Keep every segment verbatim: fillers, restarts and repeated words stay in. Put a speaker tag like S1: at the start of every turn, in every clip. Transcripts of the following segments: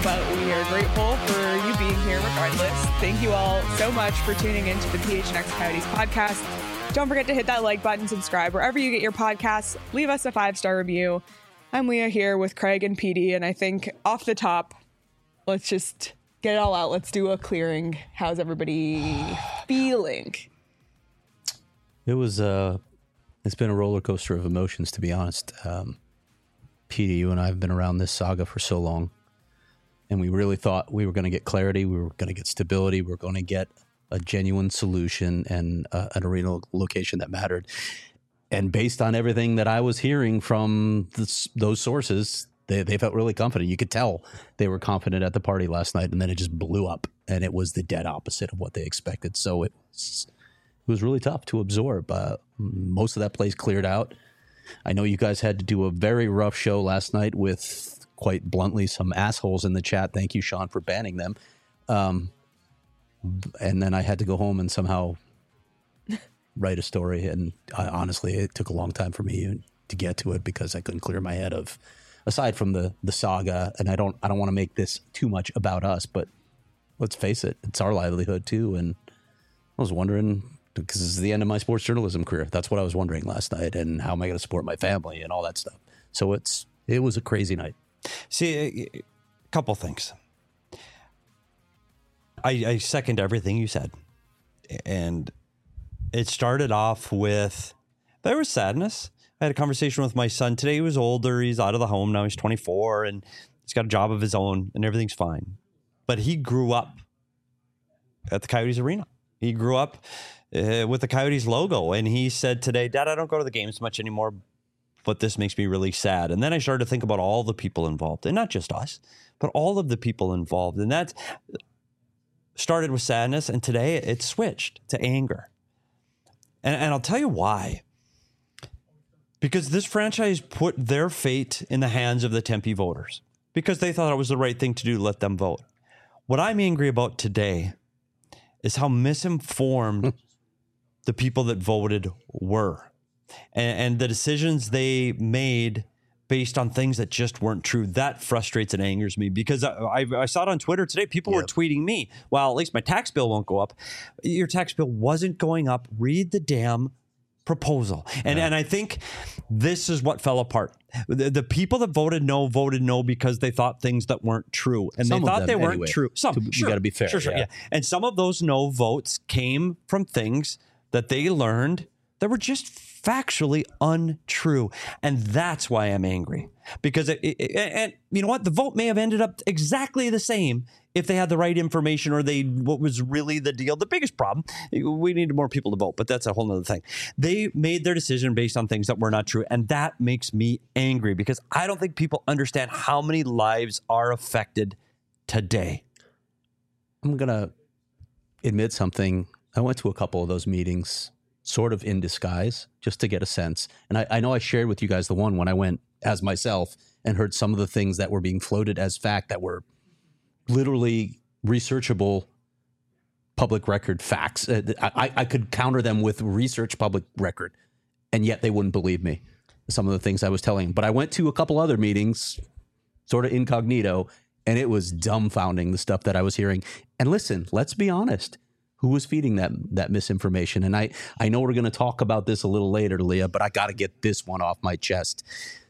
S1: but we are grateful for you being here regardless. Thank you all so much for tuning into the P H N X Coyotes podcast. Don't forget to hit that like button, subscribe wherever you get your podcasts. Leave us a five-star review. I'm Leah here with Craig and P D, and I think off the top, let's just get it all out. Let's do a clearing. How's everybody feeling?
S2: It was, uh, it's been a roller coaster of emotions, to be honest. Um, P D, you and I have been around this saga for so long, and we really thought we were going to get clarity, we were going to get stability, we were going to get a genuine solution and uh, an arena location that mattered. And based on everything that I was hearing from this, those sources, they, they felt really confident. You could tell they were confident at the party last night, and then it just blew up, and it was the dead opposite of what they expected. So it was, it was really tough to absorb. Uh, most of that place cleared out. I know you guys had to do a very rough show last night with, quite bluntly, some assholes in the chat. Thank you, Sean, for banning them. Um, and then I had to go home and somehow write a story, and I, honestly, it took a long time for me to get to it because I couldn't clear my head of, aside from the the saga. And I don't I don't want to make this too much about us, but let's face it, it's our livelihood too. And I was wondering, because this is the end of my sports journalism career, that's what I was wondering last night, and how am I going to support my family and all that stuff. So it's it was a crazy night.
S3: See, a couple things. I, I second everything you said, and it started off with, there was sadness. I had a conversation with my son today. He was older. He's out of the home now. He's twenty-four, and he's got a job of his own, and everything's fine. But he grew up at the Coyotes arena. He grew up uh, with the Coyotes logo, and he said today, Dad, I don't go to the games much anymore, but this makes me really sad. And then I started to think about all the people involved, and not just us, but all of the people involved. And that started with sadness, and today it switched to anger. And, and I'll tell you why. Because this franchise put their fate in the hands of the Tempe voters because they thought it was the right thing to do to let them vote. What I'm angry about today is how misinformed the people that voted were, and, and the decisions they made based on things that just weren't true. That frustrates and angers me because I, I, I saw it on Twitter today. People yep. were tweeting me, well, at least my tax bill won't go up. Your tax bill wasn't going up. Read the damn proposal. And yeah. and I think this is what fell apart. The, the people that voted no voted no because they thought things that weren't true. And
S2: some
S3: they thought
S2: them,
S3: they weren't
S2: anyway.
S3: true. Some.
S2: You
S3: sure,
S2: got to be fair.
S3: Sure, sure,
S2: yeah.
S3: yeah. And some of those no votes came from things that they learned that were just factually untrue. And that's why I'm angry. Because, it, it, and you know what? The vote may have ended up exactly the same if they had the right information or they, what was really the deal. The biggest problem, we needed more people to vote, but that's a whole nother thing. They made their decision based on things that were not true. And that makes me angry because I don't think people understand how many lives are affected today.
S2: I'm going to admit something. I went to a couple of those meetings sort of in disguise, just to get a sense. And I, I know I shared with you guys the one when I went as myself and heard some of the things that were being floated as fact that were literally researchable public record facts. Uh, I, I could counter them with research public record, and yet they wouldn't believe me, some of the things I was telling them. But I went to a couple other meetings, sort of incognito, and it was dumbfounding, the stuff that I was hearing. And listen, let's be honest. Who was feeding that that misinformation? And I, I know we're going to talk about this a little later, Leah, but I got to get this one off my chest.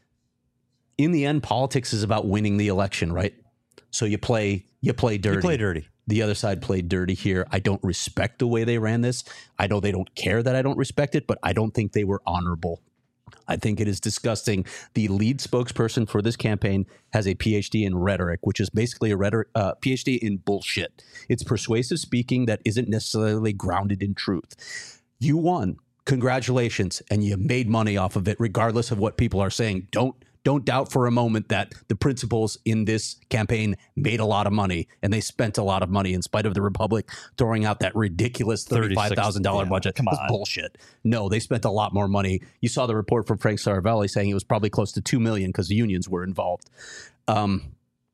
S2: In the end, politics is about winning the election, right? So you play you play dirty.
S3: You play dirty.
S2: The other side played dirty here. I don't respect the way they ran this. I know they don't care that I don't respect it, but I don't think they were honorable. I think it is disgusting. The lead spokesperson for this campaign has a P H D in rhetoric, which is basically a rhetoric, uh, P H D in bullshit. It's persuasive speaking that isn't necessarily grounded in truth. You won. Congratulations. And you made money off of it, regardless of what people are saying. Don't Don't doubt for a moment that the principals in this campaign made a lot of money, and they spent a lot of money in spite of the Republic throwing out that ridiculous thirty-five thousand dollars yeah, budget.
S3: Come on.
S2: That's bullshit. No, they spent a lot more money. You saw the report from Frank Saravelli saying it was probably close to two million dollars because the unions were involved. Um,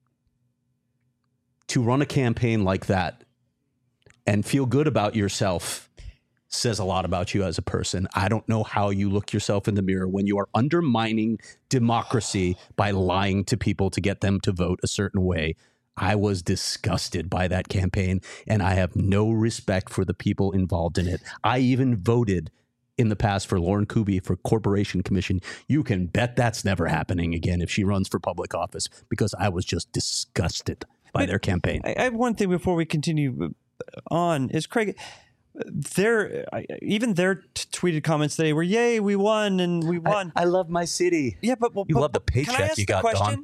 S2: to run a campaign like that and feel good about yourself says a lot about you as a person. I don't know how you look yourself in the mirror when you are undermining democracy by lying to people to get them to vote a certain way. I was disgusted by that campaign, and I have no respect for the people involved in it. I even voted in the past for Lauren Kuby for Corporation Commission. You can bet that's never happening again if she runs for public office, because I was just disgusted by but their campaign.
S3: I have one thing before we continue on is, Craig, their even their t- tweeted comments today were, "Yay, we won and we won."
S2: I, I love my city.
S3: Yeah, but, but
S2: you love the paycheck you got, Don.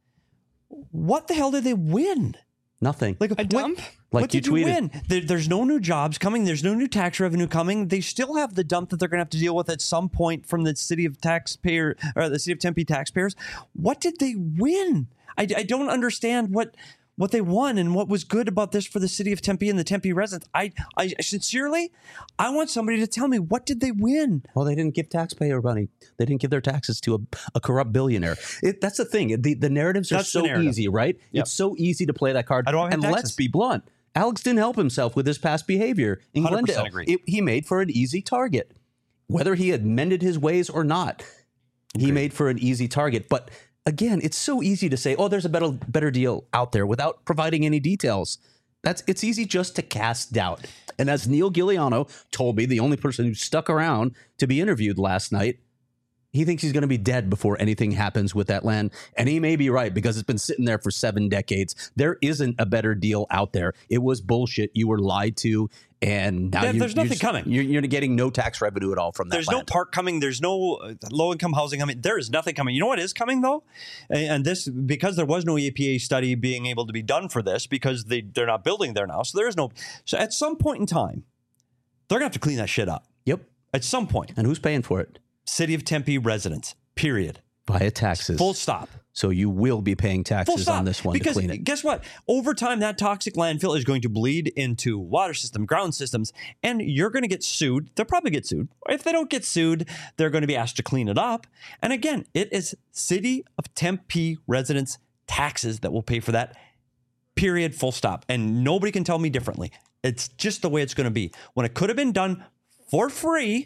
S3: What the hell did they win?
S2: Nothing.
S3: Like
S1: a dump?
S3: What,
S2: like
S3: what did
S2: you,
S3: you
S2: tweeted.
S3: win? There, there's no new jobs coming. There's no new tax revenue coming. They still have the dump that they're going to have to deal with at some point from the city of taxpayer or the city of Tempe taxpayers. What did they win? I, I don't understand what what they won and what was good about this for the city of Tempe and the Tempe residents. I, I sincerely, I want somebody to tell me, what did they win?
S2: Well, they didn't give taxpayer money. They didn't give their taxes to a, a corrupt billionaire. It, that's the thing. The, the narratives are
S3: That's
S2: so easy, right?
S3: Yep.
S2: It's so easy to play that card.
S3: I don't have
S2: and
S3: taxes.
S2: let's be blunt. Alex didn't help himself with his past behavior in
S3: one hundred percent
S2: Glendale.
S3: agree.
S2: It, he made for an easy target. Whether he had mended his ways or not, he
S3: Agreed.
S2: made for an easy target. But again, it's so easy to say, oh, there's a better better deal out there without providing any details. That's it's easy just to cast doubt. And as Neil Giuliano told me, the only person who stuck around to be interviewed last night, he thinks he's going to be dead before anything happens with that land. And he may be right, because it's been sitting there for seven decades. There isn't a better deal out there. It was bullshit. You were lied to. And now
S3: Yeah,
S2: you,
S3: there's
S2: you're
S3: nothing
S2: just-
S3: coming.
S2: You're, you're getting no tax revenue at all from that
S3: There's no
S2: land.
S3: park coming. There's no uh, low-income housing coming. There is nothing coming. You know what is coming, though? And, and this, because there was no E P A study being able to be done for this, because they, they're not building there now. So there is no. So at some point in time, they're going to have to clean that shit up.
S2: Yep.
S3: At some point.
S2: And who's paying for it?
S3: City of Tempe residents, period.
S2: Via taxes.
S3: Full stop.
S2: So you will be paying
S3: Full
S2: taxes
S3: stop.
S2: on this one
S3: because
S2: to clean it.
S3: Guess what? Over time, that toxic landfill is going to bleed into water system, ground systems, and you're going to get sued. They'll probably get sued. If they don't get sued, they're going to be asked to clean it up. And again, it is City of Tempe residents' taxes that will pay for that. Period. Full stop. And nobody can tell me differently. It's just the way it's going to be. When it could have been done for free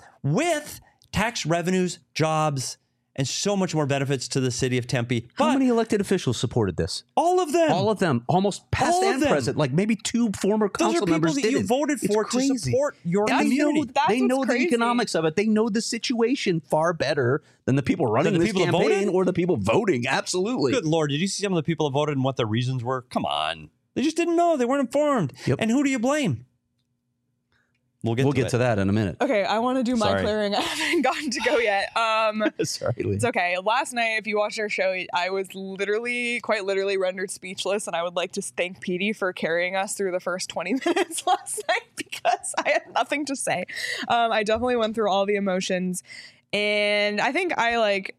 S3: with tax revenues, jobs, and so much more benefits to the city of Tempe.
S2: How
S3: But
S2: many elected officials supported this?
S3: all of them.
S2: All of them, almost past
S3: All of
S2: and
S3: them.
S2: present. Like maybe two former
S3: Those
S2: council
S3: are people
S2: members
S3: that
S2: did
S3: you
S2: it.
S3: voted
S2: It's
S3: for to
S2: crazy.
S3: support your
S1: That's-
S2: They know,
S3: community.
S1: That's
S2: they know
S1: what's
S2: the
S1: crazy.
S2: economics of it. They know the situation far better than the people running
S3: Than the
S2: this
S3: people that
S2: campaign
S3: voted?
S2: or the people voting. Absolutely.
S3: Good Lord, did you see some of the people that voted and what their reasons were? Come on. They just didn't know. They weren't informed.
S2: Yep.
S3: And who do you blame? We'll get
S2: We'll
S3: to
S2: get
S3: it.
S2: to that in a minute.
S1: Okay, I want to do my
S3: Sorry.
S1: clearing. I haven't gotten to go yet. Um,
S2: Sorry, Lee.
S1: it's okay. Last night, if you watched our show, I was literally, quite literally rendered speechless, and I would like to thank Petey for carrying us through the first twenty minutes last night, because I had nothing to say. Um, I definitely went through all the emotions, and I think I like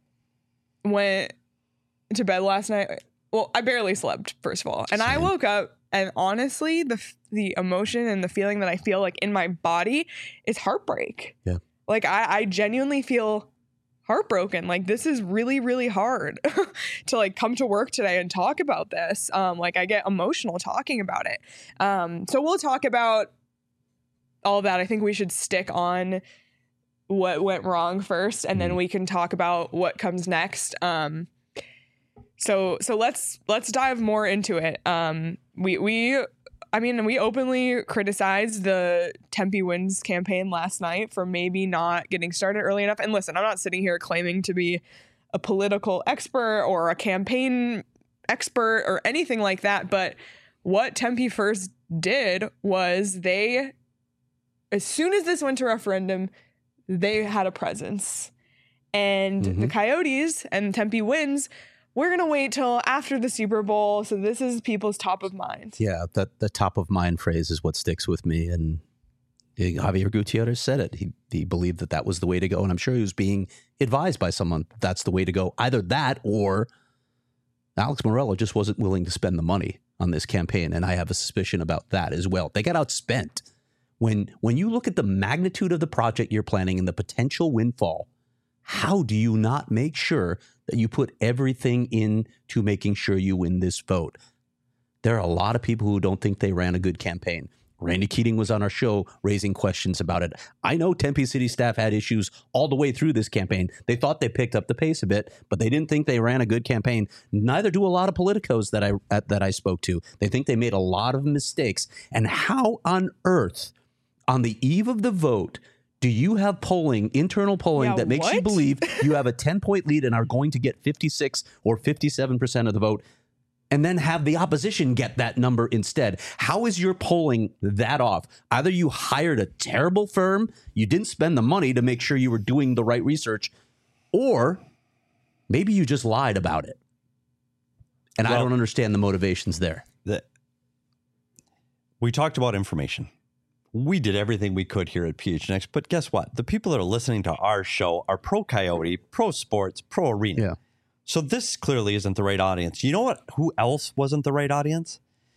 S1: went to bed last night. Well, I barely slept, first of all, and I
S2: Same.
S1: woke up. And honestly, the the emotion and the feeling that I feel like in my body is heartbreak.
S2: Yeah.
S1: Like I, I genuinely feel heartbroken. Like this is really, really hard to like come to work today and talk about this. Um, like I get emotional talking about it. Um, so we'll talk about all of that. I think we should stick on what went wrong first, and then we can talk about what comes next. Um, So so let's let's dive more into it. Um, we we I mean we openly criticized the Tempe Wins campaign last night for maybe not getting started early enough. And listen, I'm not sitting here claiming to be a political expert or a campaign expert or anything like that. But what Tempe First did was they, as soon as this went to referendum, they had a presence. And
S2: Mhm.
S1: the Coyotes and Tempe Wins, we're going to wait till after the Super Bowl. So this is people's top of mind.
S2: Yeah, that the top of mind phrase is what sticks with me. And Javier Gutierrez said it. He he believed that that was the way to go. And I'm sure he was being advised by someone that's the way to go. Either that or Alex Morello just wasn't willing to spend the money on this campaign. And I have a suspicion about that as well. They got outspent. When, when you look at the magnitude of the project you're planning and the potential windfall, how do you not make sure that you put everything into making sure you win this vote? There are a lot of people who don't think they ran a good campaign. Randy Keating was on our show raising questions about it. I know Tempe City staff had issues all the way through this campaign. They thought they picked up the pace a bit, but they didn't think they ran a good campaign. Neither do a lot of politicos that I uh, that I spoke to. They think they made a lot of mistakes. And how on earth, on the eve of the vote, do you have polling, internal polling,
S1: Yeah,
S2: that makes
S1: what?
S2: you believe you have a ten-point lead and are going to get fifty-six or fifty-seven percent of the vote, and then have the opposition get that number instead? How is your polling that off? Either you hired a terrible firm, you didn't spend the money to make sure you were doing the right research, or maybe you just lied about it. And
S3: Well,
S2: I don't understand the motivations there.
S3: The, we talked about information. We did everything we could here at P H N X, but guess what? The people that are listening to our show are pro Coyote, pro sports, pro arena.
S2: Yeah.
S3: So this clearly isn't the right audience. You know what? Who else wasn't the right audience?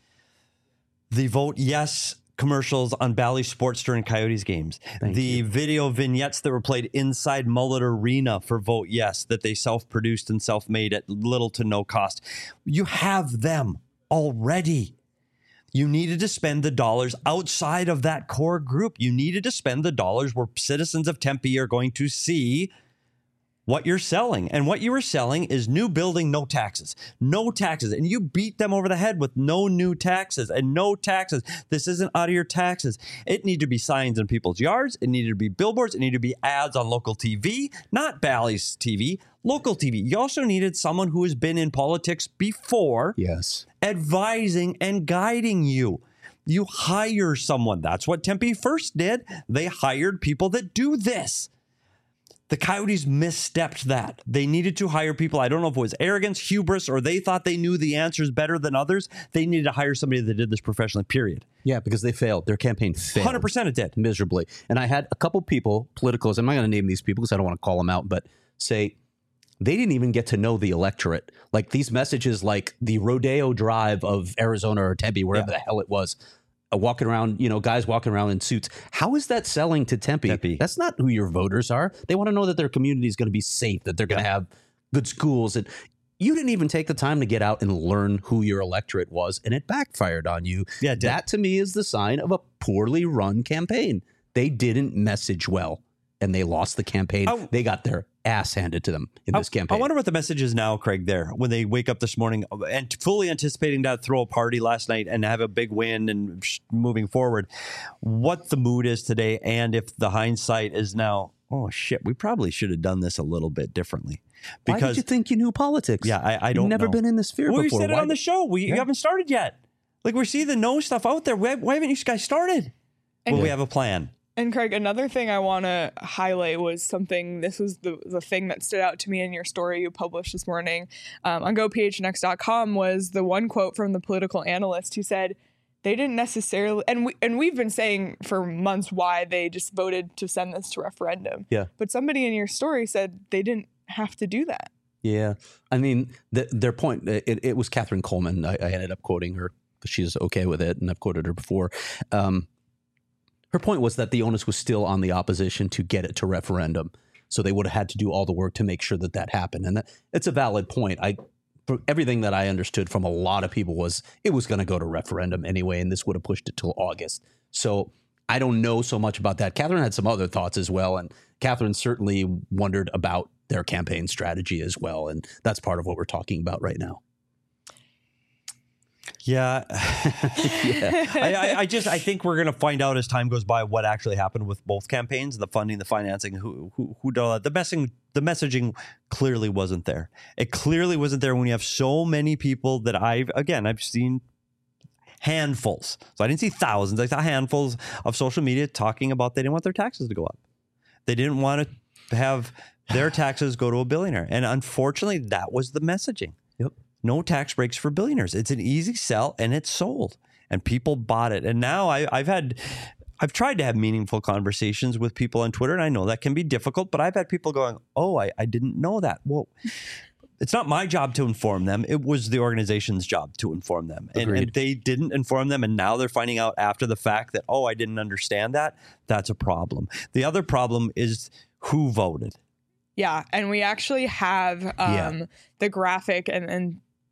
S3: The Vote Yes commercials on Bally Sports during Coyotes games.
S2: Thank
S3: the
S2: you.
S3: video vignettes that were played inside Mullet Arena for Vote Yes that they self-produced and self-made at little to no cost. You have them already. You needed to spend the dollars outside of that core group. You needed to spend the dollars where citizens of Tempe are going to see what you're selling. And what you were selling is new building, no taxes. No taxes. And you beat them over the head with no new taxes and no taxes. This isn't out of your taxes. It needed to be signs in people's yards. It needed to be billboards. It needed to be ads on local T V, not Bally's T V, local T V. You also needed someone who has been in politics before,
S2: Yes.
S3: advising and guiding you. You hire someone. That's what Tempe First did. They hired people that do this. The Coyotes misstepped that. They needed to hire people. I don't know if it was arrogance, hubris, or they thought they knew the answers better than others. They needed to hire somebody that did this professionally, period.
S2: Yeah, because they failed. Their campaign failed.
S3: one hundred percent it did.
S2: Miserably. And I had a couple people, politicals, I'm not going to name these people because I don't want to call them out, but say they didn't even get to know the electorate. Like these messages, like the Rodeo Drive of Arizona or Tempe, wherever
S3: Yeah.
S2: the hell it was, uh, walking around, you know, guys walking around in suits. How is that selling to Tempe?
S3: Tempe.
S2: That's not who your voters are. They want to know that their community is going to be safe, that they're going to
S3: Yeah.
S2: have good schools. And you didn't even take the time to get out and learn who your electorate was, and it backfired on you.
S3: Yeah, it did.
S2: That to me is the sign of a poorly run campaign. They didn't message well, and they lost the campaign.
S3: I-
S2: they got their ass handed to them in this
S3: I,
S2: campaign.
S3: I wonder what the message is now, Craig, there, when they wake up this morning and fully anticipating to throw a party last night and have a big win and sh- moving forward, what the mood is today, and if the hindsight is now, oh, shit, we probably should have done this a little bit differently.
S2: Why did you think you knew politics?
S3: Yeah, I, I don't
S2: You've never
S3: know.
S2: been in this sphere
S3: well,
S2: before.
S3: we said it
S2: Why
S3: on the
S2: did-
S3: show. We
S2: Yeah.
S3: you haven't started yet. Like, we see the no stuff out there. Why, why haven't you guys started?
S1: And-
S3: Well, we have a plan.
S1: And Craig, another thing I want to highlight was something, this was the, the thing that stood out to me in your story you published this morning um, on go p h n x dot com was the one quote from the political analyst who said they didn't necessarily, and, we, and we've been saying for months why they just voted to send this to referendum.
S2: Yeah.
S1: But somebody in your story said they didn't have to do that.
S2: Yeah. I mean, the, their point, it, it was Catherine Coleman. I, I ended up quoting her because she's okay with it, and I've quoted her before. Um, her point was that the onus was still on the opposition to get it to referendum. So they would have had to do all the work to make sure that that happened. And that, it's a valid point. I, for everything that I understood from a lot of people was it was going to go to referendum anyway, and this would have pushed it till August. So I don't know so much about that. Catherine had some other thoughts as well. And Catherine certainly wondered about their campaign strategy as well. And that's part of what we're talking about right now.
S3: Yeah.
S2: Yeah.
S3: I, I, I just I think we're going to find out as time goes by what actually happened with both campaigns, the funding, the financing, who who who did all that. The messaging, the messaging clearly wasn't there. It clearly wasn't there when you have so many people that I've again I've seen handfuls. So I didn't see thousands. I saw handfuls of social media talking about they didn't want their taxes to go up. They didn't want to have their taxes go to a billionaire, and unfortunately, that was the messaging.
S2: Yep.
S3: No tax breaks for billionaires. It's an easy sell, and it's sold, and people bought it. And now I, I've had, I've tried to have meaningful conversations with people on Twitter, and I know that can be difficult. But I've had people going, "Oh, I, I didn't know that." Well, it's not my job to inform them. It was the organization's job to inform them, and, and they didn't inform them. And now they're finding out after the fact that, "Oh, I didn't understand that." That's a problem. The other problem is who voted.
S1: Yeah, and we actually have um,
S2: Yeah.
S1: the graphic and, and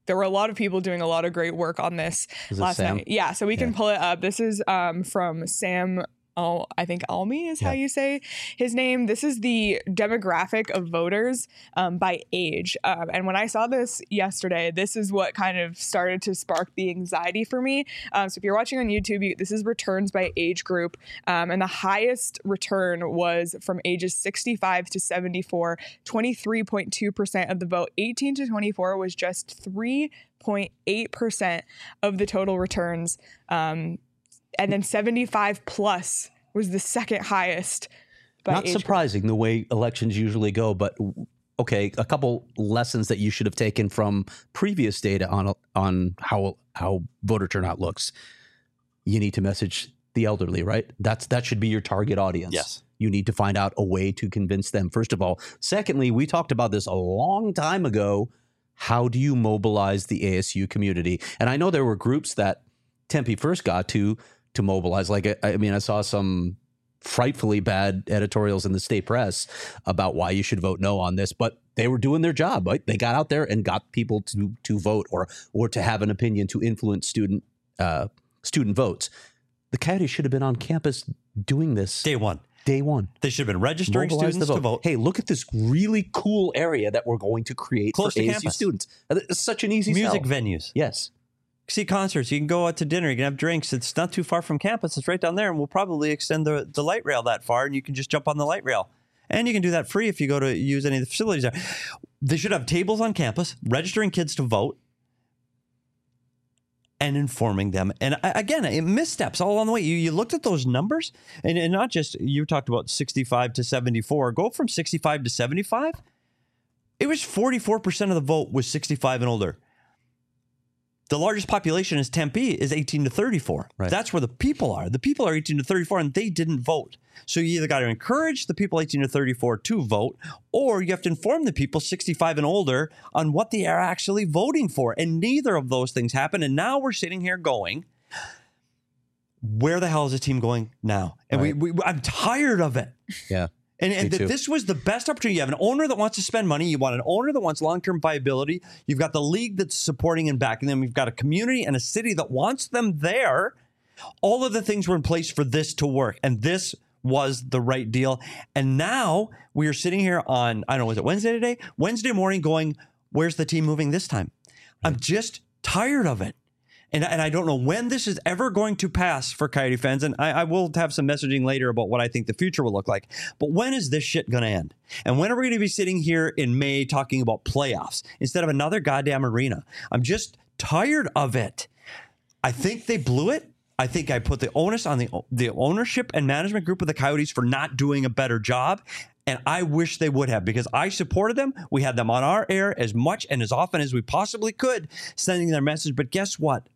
S1: there were a lot of people doing a lot of great work on this
S2: Is it
S1: last
S2: Sam?
S1: night. Yeah, so we can
S2: Yeah.
S1: pull it up. This is um, from Sam. Oh, I think Almy is how
S2: Yeah.
S1: you say his name. This is the demographic of voters um, by age. Um, and when I saw this yesterday, this is what kind of started to spark the anxiety for me. Um, so if you're watching on YouTube, you, this is returns by age group. Um, and the highest return was from ages sixty-five to seventy-four, twenty-three point two percent of the vote. eighteen to twenty-four was just three point eight percent of the total returns. Um, and then seventy-five plus was the second highest. By
S2: Not
S1: age
S2: surprising the way elections usually go, but okay, a couple lessons that you should have taken from previous data on on how how voter turnout looks. You need to message the elderly, right? That's that should be your target audience.
S3: Yes.
S2: You need to find out a way to convince them, first of all. Secondly, we talked about this a long time ago. How do you mobilize the A S U community? And I know there were groups that Tempe first got to to mobilize. Like, I, I mean, I saw some frightfully bad editorials in the state press about why you should vote no on this, but they were doing their job, right? They got out there and got people to to vote or or to have an opinion to influence student uh, student votes. The Coyotes should have been on campus doing this
S3: Day one.
S2: day one.
S3: They should have been registering
S2: Mobilize
S3: students
S2: the
S3: to vote.
S2: Hey, look at this really cool area that we're going to create
S3: Close
S2: for
S3: to
S2: A S U
S3: campus.
S2: students. It's such an easy
S3: Music
S2: sell.
S3: venues.
S2: Yes.
S3: See concerts. You can go out to dinner. You can have drinks. It's not too far from campus. It's right down there. And we'll probably extend the, the light rail that far, and you can just jump on the light rail. And you can do that free if you go to use any of the facilities there. They should have tables on campus, registering kids to vote, and informing them. And I, again, it missteps all along the way. You, you looked at those numbers, and, and not just, you talked about sixty-five to seventy-four. Go from sixty-five to seventy-five. It was forty-four percent of the vote was sixty-five and older. The largest population is Tempe is eighteen to thirty-four.
S2: Right.
S3: That's where the people are. The people are eighteen to thirty-four, and they didn't vote. So you either got to encourage the people eighteen to thirty-four to vote, or you have to inform the people sixty-five and older on what they are actually voting for. And neither of those things happen. And now we're sitting here going, where the hell is the team going now? And
S2: Right.
S3: we, we, I'm tired of it.
S2: Yeah.
S3: And, and
S2: Me
S3: that
S2: too.
S3: this was the best opportunity. You have an owner that wants to spend money. You want an owner that wants long-term viability. You've got the league that's supporting and backing them. You've got a community and a city that wants them there. All of the things were in place for this to work. And this was the right deal. And now we are sitting here on, I don't know, was it Wednesday today? Wednesday morning going, where's the team moving this time? I'm just tired of it. And, and I don't know when this is ever going to pass for Coyote fans. And I, I will have some messaging later about what I think the future will look like. But when is this shit going to end? And when are we going to be sitting here in May talking about playoffs instead of another goddamn arena? I'm just tired of it. I think they blew it. I think I put the onus on the, the ownership and management group of the Coyotes for not doing a better job. And I wish they would have, because I supported them. We had them on our air as much and as often as we possibly could, sending their message. But guess what?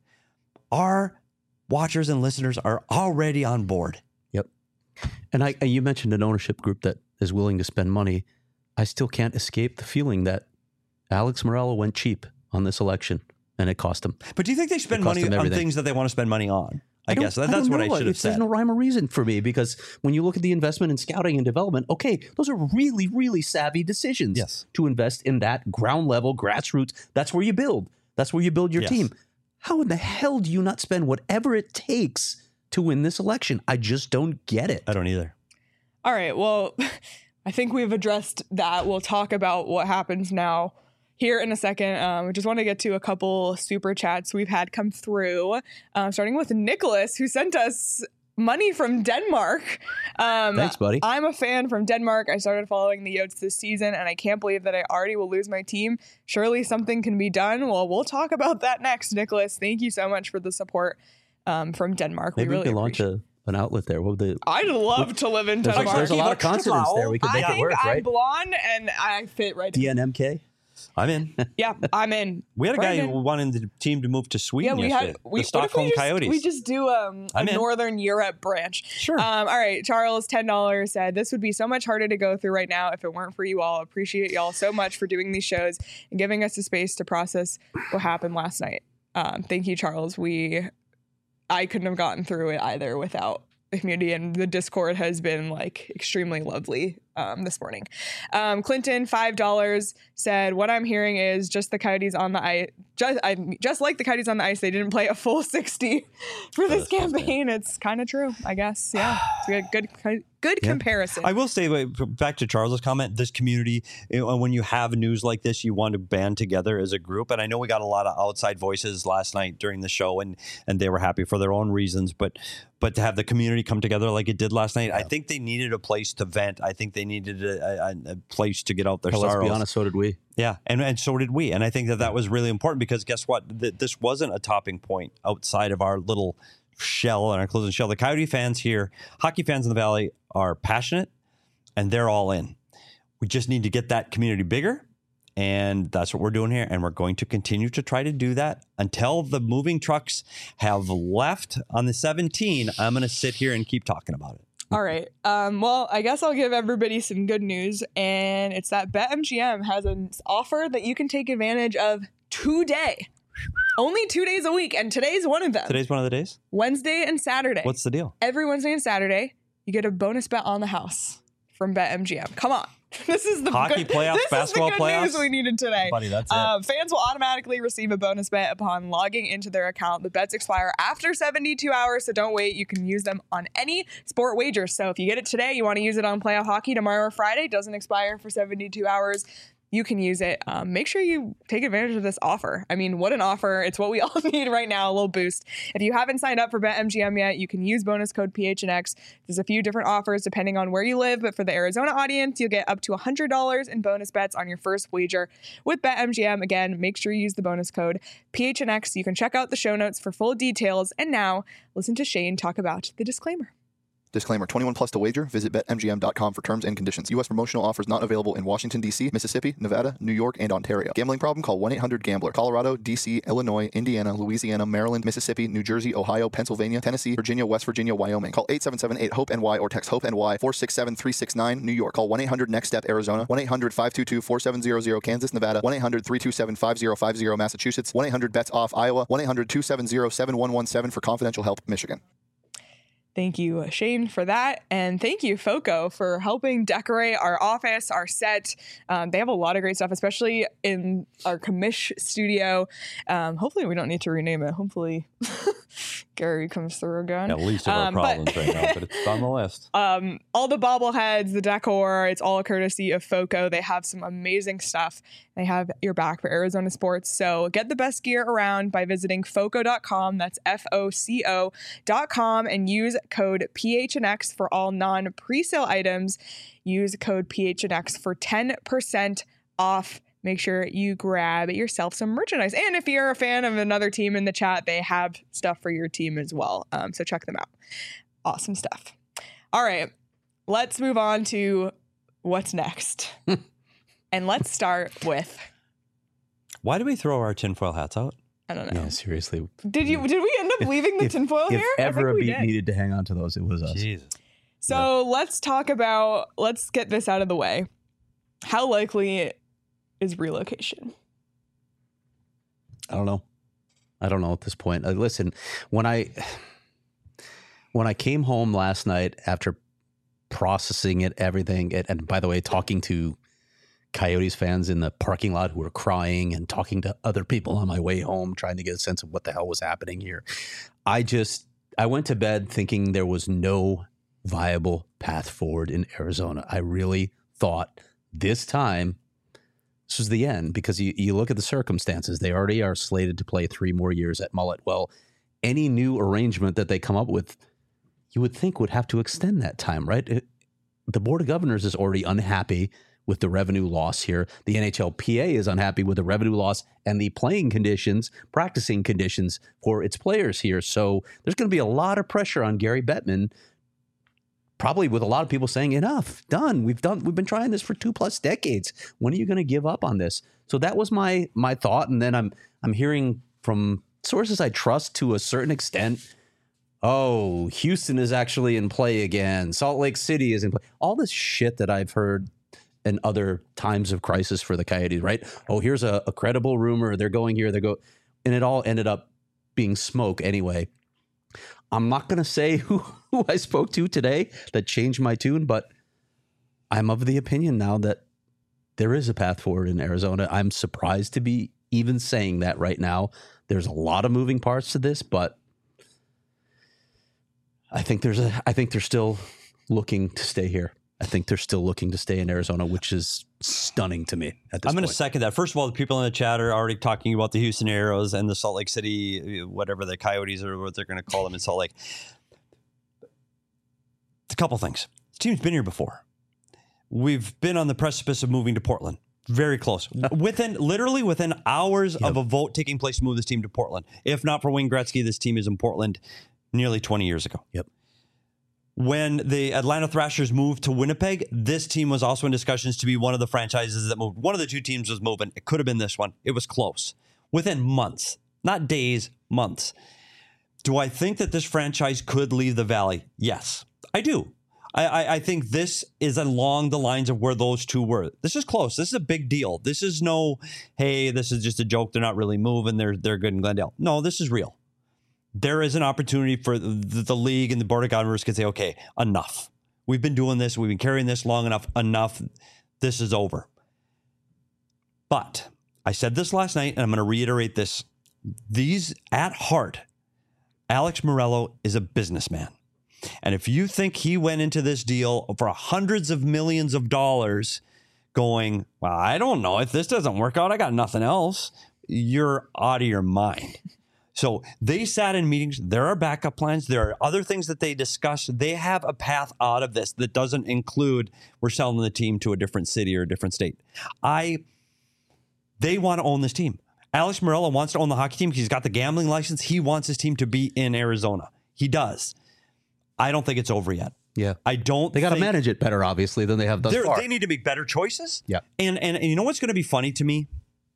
S3: Our watchers and listeners are already on board.
S2: Yep. And I, you mentioned an ownership group that is willing to spend money. I still can't escape the feeling that Alex Morello went cheap on this election, and it cost him.
S3: But do you think they spend
S2: It cost
S3: money
S2: them
S3: on
S2: everything.
S3: things that they want to spend money on? I,
S2: don't-
S3: guess that,
S2: I
S3: that's
S2: don't
S3: what I
S2: know.
S3: should have
S2: It's- There's
S3: said.
S2: no rhyme or reason for me, because when you look at the investment in scouting and development, okay, those are really, really savvy decisions.
S3: Yes.
S2: To invest in that ground level, grassroots. That's where you build. That's where you build your
S3: Yes.
S2: team. How in the hell do you not spend whatever it takes to win this election? I just don't get it.
S3: I don't either.
S1: All right. Well, I think we've addressed that. We'll talk about what happens now here in a second. Um, I just want to get to a couple super chats we've had come through, um, starting with Nicholas, who sent us money from Denmark. Um,
S2: Thanks, buddy.
S1: I'm a fan from Denmark. I started following the Yotes this season, and I can't believe that I already will lose my team. Surely something can be done. Well, we'll talk about that next, Nicholas. Thank you so much for the support um, from Denmark.
S2: Maybe
S1: we
S2: we,
S1: really
S2: can launch
S1: appreciate
S2: a, an outlet there. What would the,
S1: I'd love to live in
S2: there's,
S1: Denmark.
S2: there's a lot of
S3: Keep it
S2: consonants there. We could
S1: I
S2: make it
S1: think
S2: work,
S1: I'm
S2: right?
S1: blonde and I fit right in.
S2: D N M K?
S3: I'm in.
S1: Yeah, I'm in.
S3: We had a guy
S1: Right in.
S3: who wanted the team to move to
S1: Yeah,
S3: Sweden
S1: we
S3: yesterday.
S1: had we,
S3: the Stockholm
S1: what if we just,
S3: Coyotes.
S1: We just do um, a
S3: I'm in.
S1: Northern Europe branch.
S3: Sure.
S1: Um, all right, Charles, ten dollars said this would be so much harder to go through right now if it weren't for you all. Appreciate y'all so much for doing these shows and giving us the space to process what happened last night. Um, thank you, Charles. We, I couldn't have gotten through it either without the community, and the Discord has been like extremely lovely um, this morning. Um, Clinton, five dollars, said, what I'm hearing is just the Coyotes on the ice. Just, I, just like the Coyotes on the ice, they didn't play a full sixty for this campaign. It's kind of true, I guess. Yeah, it's a good, good, good yeah. comparison.
S3: I will say, wait, back to Charles's comment, this community, you know, when you have news like this, you want to band together as a group. And I know we got a lot of outside voices last night during the show, and and they were happy for their own reasons. But but to have the community come together like it did last night, yeah. I think they needed a place to vent. I think they needed a, a, a place to get out their
S2: well,
S3: sorrows.
S2: Let's be honest, so did we.
S3: Yeah, and, and so did we. And I think that that was really important because guess what? Th- this wasn't a topping point outside of our little shell and our closing shell. The Coyote fans here, hockey fans in the Valley, are passionate and they're all in. We just need to get that community bigger. And that's what we're doing here. And we're going to continue to try to do that until the moving trucks have left on the seventeen. I'm going to sit here and keep talking about it.
S1: All right. Um, well, I guess I'll give everybody some good news. And it's that BetMGM has an offer that you can take advantage of today. Only two days a week. And today's one of them.
S3: Today's one of the days?
S1: Wednesday and Saturday.
S3: What's the deal?
S1: Every Wednesday and Saturday, you get a bonus bet on the house from BetMGM. Come on. This is the
S3: hockey
S1: good,
S3: playoffs,
S1: this
S3: basketball
S1: is the good
S3: playoffs.
S1: News we needed today.
S2: Buddy, that's it.
S1: Uh, fans will automatically receive a bonus bet upon logging into their account. The bets expire after seventy-two hours, so don't wait. You can use them on any sport wager. So if you get it today, you want to use it on playoff hockey tomorrow or Friday. It doesn't expire for seventy-two hours. You can use it. Um, make sure you take advantage of this offer. I mean, what an offer. It's what we all need right now, a little boost. If you haven't signed up for BetMGM yet, you can use bonus code P H N X. There's a few different offers depending on where you live, but for the Arizona audience, you'll get up to one hundred dollars in bonus bets on your first wager with BetMGM. Again, make sure you use the bonus code P H N X. You can check out the show notes for full details. And now, listen to Shane talk about the disclaimer.
S4: Disclaimer, twenty-one plus to wager. Visit bet M G M dot com for terms and conditions. U S promotional offers not available in Washington, D C, Mississippi, Nevada, New York, and Ontario. Gambling problem? Call one eight hundred gambler. Colorado, D C, Illinois, Indiana, Louisiana, Maryland, Mississippi, New Jersey, Ohio, Pennsylvania, Tennessee, Virginia, West Virginia, Wyoming. Call eight seven seven eight hope N Y or text HOPE-N Y four six seven three six nine, New York. Call one eight hundred next step Arizona, one eight hundred five two two four seven zero zero, Kansas, Nevada, one eight hundred three two seven five zero five zero, Massachusetts, one eight hundred bets off Iowa, one eight hundred two seven zero seven one one seven for confidential help, Michigan.
S1: Thank you, Shane, for that. And thank you, Foco, for helping decorate our office, our set. Um, they have a lot of great stuff, especially in our commish studio. Um, hopefully we don't need to rename it. Hopefully Gary comes through again.
S3: At least of our
S1: um,
S3: problems
S1: but,
S3: right now, but it's on the list.
S1: Um, all the bobbleheads, the decor, it's all a courtesy of Foco. They have some amazing stuff. They have your back for Arizona sports. So get the best gear around by visiting foco dot com. That's F O C O dot com and use code P H N X for all non-presale items. Use code P H N X for ten percent off. Make sure you grab yourself some merchandise. And if you're a fan of another team in the chat, they have stuff for your team as well. Um, so check them out. Awesome stuff. All right, let's move on to what's next. And let's start with...
S3: Why do we throw our tinfoil hats out?
S1: I don't know.
S2: Yeah, seriously.
S1: Did you? Did we end up leaving the
S2: if,
S1: tinfoil
S2: if
S1: here?
S2: ever
S1: I
S2: a
S1: think we
S2: beat
S1: did.
S2: needed to hang on to those, it was us.
S3: Jesus.
S1: So yeah. let's talk about, let's get this out of the way. How likely is relocation?
S2: I don't know. I don't know at this point. Uh, listen, when I when I came home last night after processing it, everything, and, and by the way, talking to Coyotes fans in the parking lot who were crying and talking to other people on my way home, trying to get a sense of what the hell was happening here. I just, I went to bed thinking there was no viable path forward in Arizona. I really thought this time this was the end, because you, you look at the circumstances. They already are slated to play three more years at Mullet. Well, any new arrangement that they come up with, you would think would have to extend that time, right? It, the Board of Governors is already unhappy with the revenue loss here. The N H L P A is unhappy with the revenue loss and the playing conditions, practicing conditions for its players here. So there's going to be a lot of pressure on Gary Bettman, probably with a lot of people saying, enough, done. We've done. We've been trying this for two plus decades. When are you going to give up on this? So that was my my thought. And then I'm I'm hearing from sources I trust to a certain extent, oh, Houston is actually in play again. Salt Lake City is in play. All this shit that I've heard in other times of crisis for the Coyotes, right? Oh, here's a, a credible rumor. They're going here. They go, and it all ended up being smoke anyway. I'm not going to say who, who I spoke to today that changed my tune, but I'm of the opinion now that there is a path forward in Arizona. I'm surprised to be even saying that right now. There's a lot of moving parts to this, but I think there's a, I think they're still looking to stay here. I think they're still looking to stay in Arizona, which is stunning to me at this
S3: I'm going to
S2: point.
S3: second that. First of all, the people in the chat are already talking about the Houston Aeros and the Salt Lake City, whatever the Coyotes or what they're going to call them in Salt Lake. A couple things. This team's been here before. We've been on the precipice of moving to Portland. Very close. Within, literally within hours
S2: Yep.
S3: of a vote taking place to move this team to Portland. If not for Wayne Gretzky, this team is in Portland nearly twenty years ago.
S2: Yep.
S3: When the Atlanta Thrashers moved to Winnipeg, this team was also in discussions to be one of the franchises that moved. One of the two teams was moving. It could have been this one. It was close. Within months, not days, months. Do I think that this franchise could leave the Valley? Yes, I do. I, I, I think this is along the lines of where those two were. This is close. This is a big deal. This is no, hey, this is just a joke. They're not really moving. They're they're good in Glendale. No, this is real. There is an opportunity for the, the league and the board of governors can say, okay, enough. We've been doing this. We've been carrying this long enough. Enough. This is over. But I said this last night, and I'm going to reiterate this. These, at heart, Alex Morello is a businessman. And if you think he went into this deal for hundreds of millions of dollars going, well, I don't know. If this doesn't work out, I got nothing else. You're out of your mind. So they sat in meetings. There are backup plans. There are other things that they discussed. They have a path out of this that doesn't include we're selling the team to a different city or a different state. I, they want to own this team. Alex Morello wants to own the hockey team because he's got the gambling license. He wants his team to be in Arizona. He does. I don't think it's over yet.
S2: Yeah.
S3: I don't
S2: They got to
S3: think-
S2: manage it better, obviously, than they have thus
S3: They're-
S2: far.
S3: They need to make better choices.
S2: Yeah.
S3: And, and and you know what's going to be funny to me?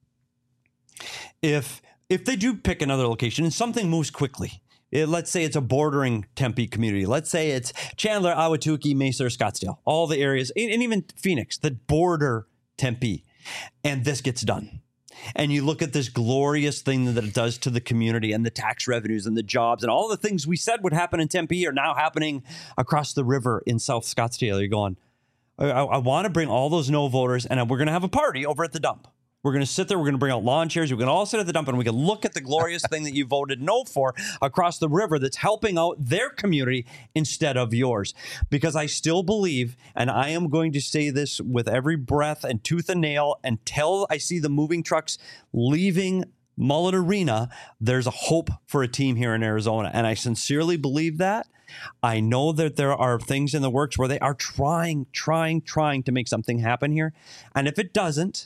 S3: If if they do pick another location and something moves quickly, it, let's say it's a bordering Tempe community. Let's say it's Chandler, Ahwatukee, Mesa, or Scottsdale, all the areas, and, and even Phoenix that border Tempe, and this gets done. And you look at this glorious thing that it does to the community and the tax revenues and the jobs and all the things we said would happen in Tempe are now happening across the river in South Scottsdale. You're going, I, I want to bring all those no voters and we're going to have a party over at the dump. We're going to sit there. We're going to bring out lawn chairs. We're going to all sit at the dump and we can look at the glorious thing that you voted no for across the river that's helping out their community instead of yours. Because I still believe, and I am going to say this with every breath and tooth and nail until I see the moving trucks leaving Mullet Arena, there's a hope for a team here in Arizona. And I sincerely believe that. I know that there are things in the works where they are trying, trying, trying to make something happen here. And if it doesn't,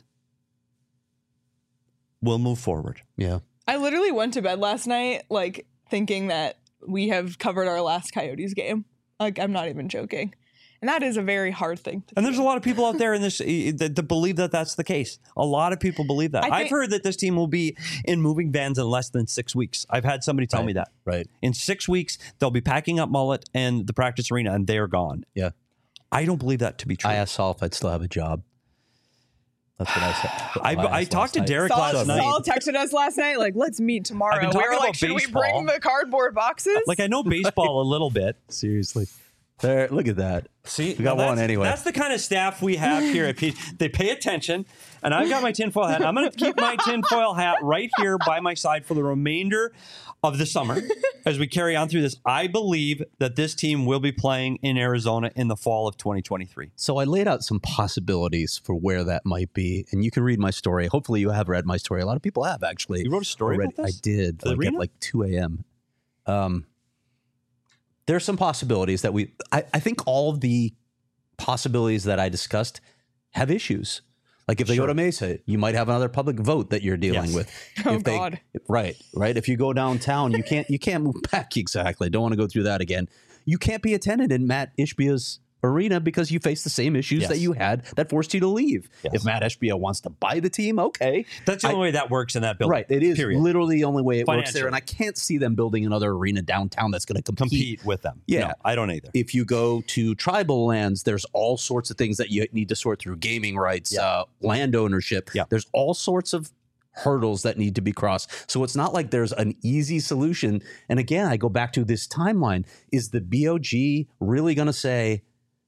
S3: we'll move forward.
S2: Yeah.
S1: I literally went to bed last night, like, thinking that we have covered our last Coyotes game. Like, I'm not even joking. And that is a very hard thing to
S3: And
S1: do.
S3: there's a lot of people out there in this eh, that, that believe that that's the case. A lot of people believe that.
S1: I think-
S3: I've heard that this team will be in moving vans in less than six weeks. I've had somebody tell
S2: Right.
S3: me that.
S2: Right.
S3: In six weeks, they'll be packing up Mullet and the practice arena, and they're gone.
S2: Yeah.
S3: I don't believe that to be true.
S2: I asked Saul if I'd still have a job. That's what I said.
S3: I,
S2: asked
S3: I
S2: last
S3: talked to
S2: night.
S3: Derek
S1: Saul,
S3: last night.
S1: Saul texted us last night, like, let's meet tomorrow.
S3: I've been
S1: We
S3: talking
S1: were like,
S3: about
S1: should we
S3: baseball.
S1: bring the cardboard boxes?
S3: Like, I know baseball a little bit.
S2: Seriously. There, look at that.
S3: See,
S2: We got
S3: now
S2: one
S3: that's-
S2: anyway.
S3: That's the kind of staff we have here at P. They pay attention, and I've got my tinfoil hat. I'm going to keep my tinfoil hat right here by my side for the remainder of the summer as we carry on through this. I believe that this team will be playing in Arizona in the fall of twenty twenty-three.
S2: So I laid out some possibilities for where that might be, and you can read my story. Hopefully, you have read my story. A lot of people have actually.
S3: You wrote a story
S2: already.
S3: about this?
S2: I did,
S3: For the
S2: like at
S3: arena?
S2: like two a.m. Um, there's some possibilities that we. I, I think all of the possibilities that I discussed have issues. Like if they
S3: Sure.
S2: go to Mesa, you might have another public vote that you're dealing
S3: Yes.
S2: with.
S1: Oh,
S2: if they,
S1: God.
S2: Right, right. If you go downtown, you can't you can't move back exactly. Don't want to go through that again. You can't be a tenant in Matt Ishbia's arena because you face the same issues
S3: Yes.
S2: that you had that forced you to leave.
S3: Yes.
S2: If Matt Ishbia wants to buy the team, okay.
S3: That's the
S2: I-
S3: only way that works in that building.
S2: Right. It is
S3: Period.
S2: literally the only way it works
S3: Financially.
S2: there. And I can't see them building another arena downtown that's going to compete.
S3: Compete with them.
S2: Yeah.
S3: No, I don't either.
S2: If you go to tribal lands, there's all sorts of things that you need to sort through: gaming rights,
S3: Yeah.
S2: uh, land ownership.
S3: Yeah.
S2: There's all sorts of hurdles that need to be crossed. So it's not like there's an easy solution. And again, I go back to this timeline. Is the B O G really going to say,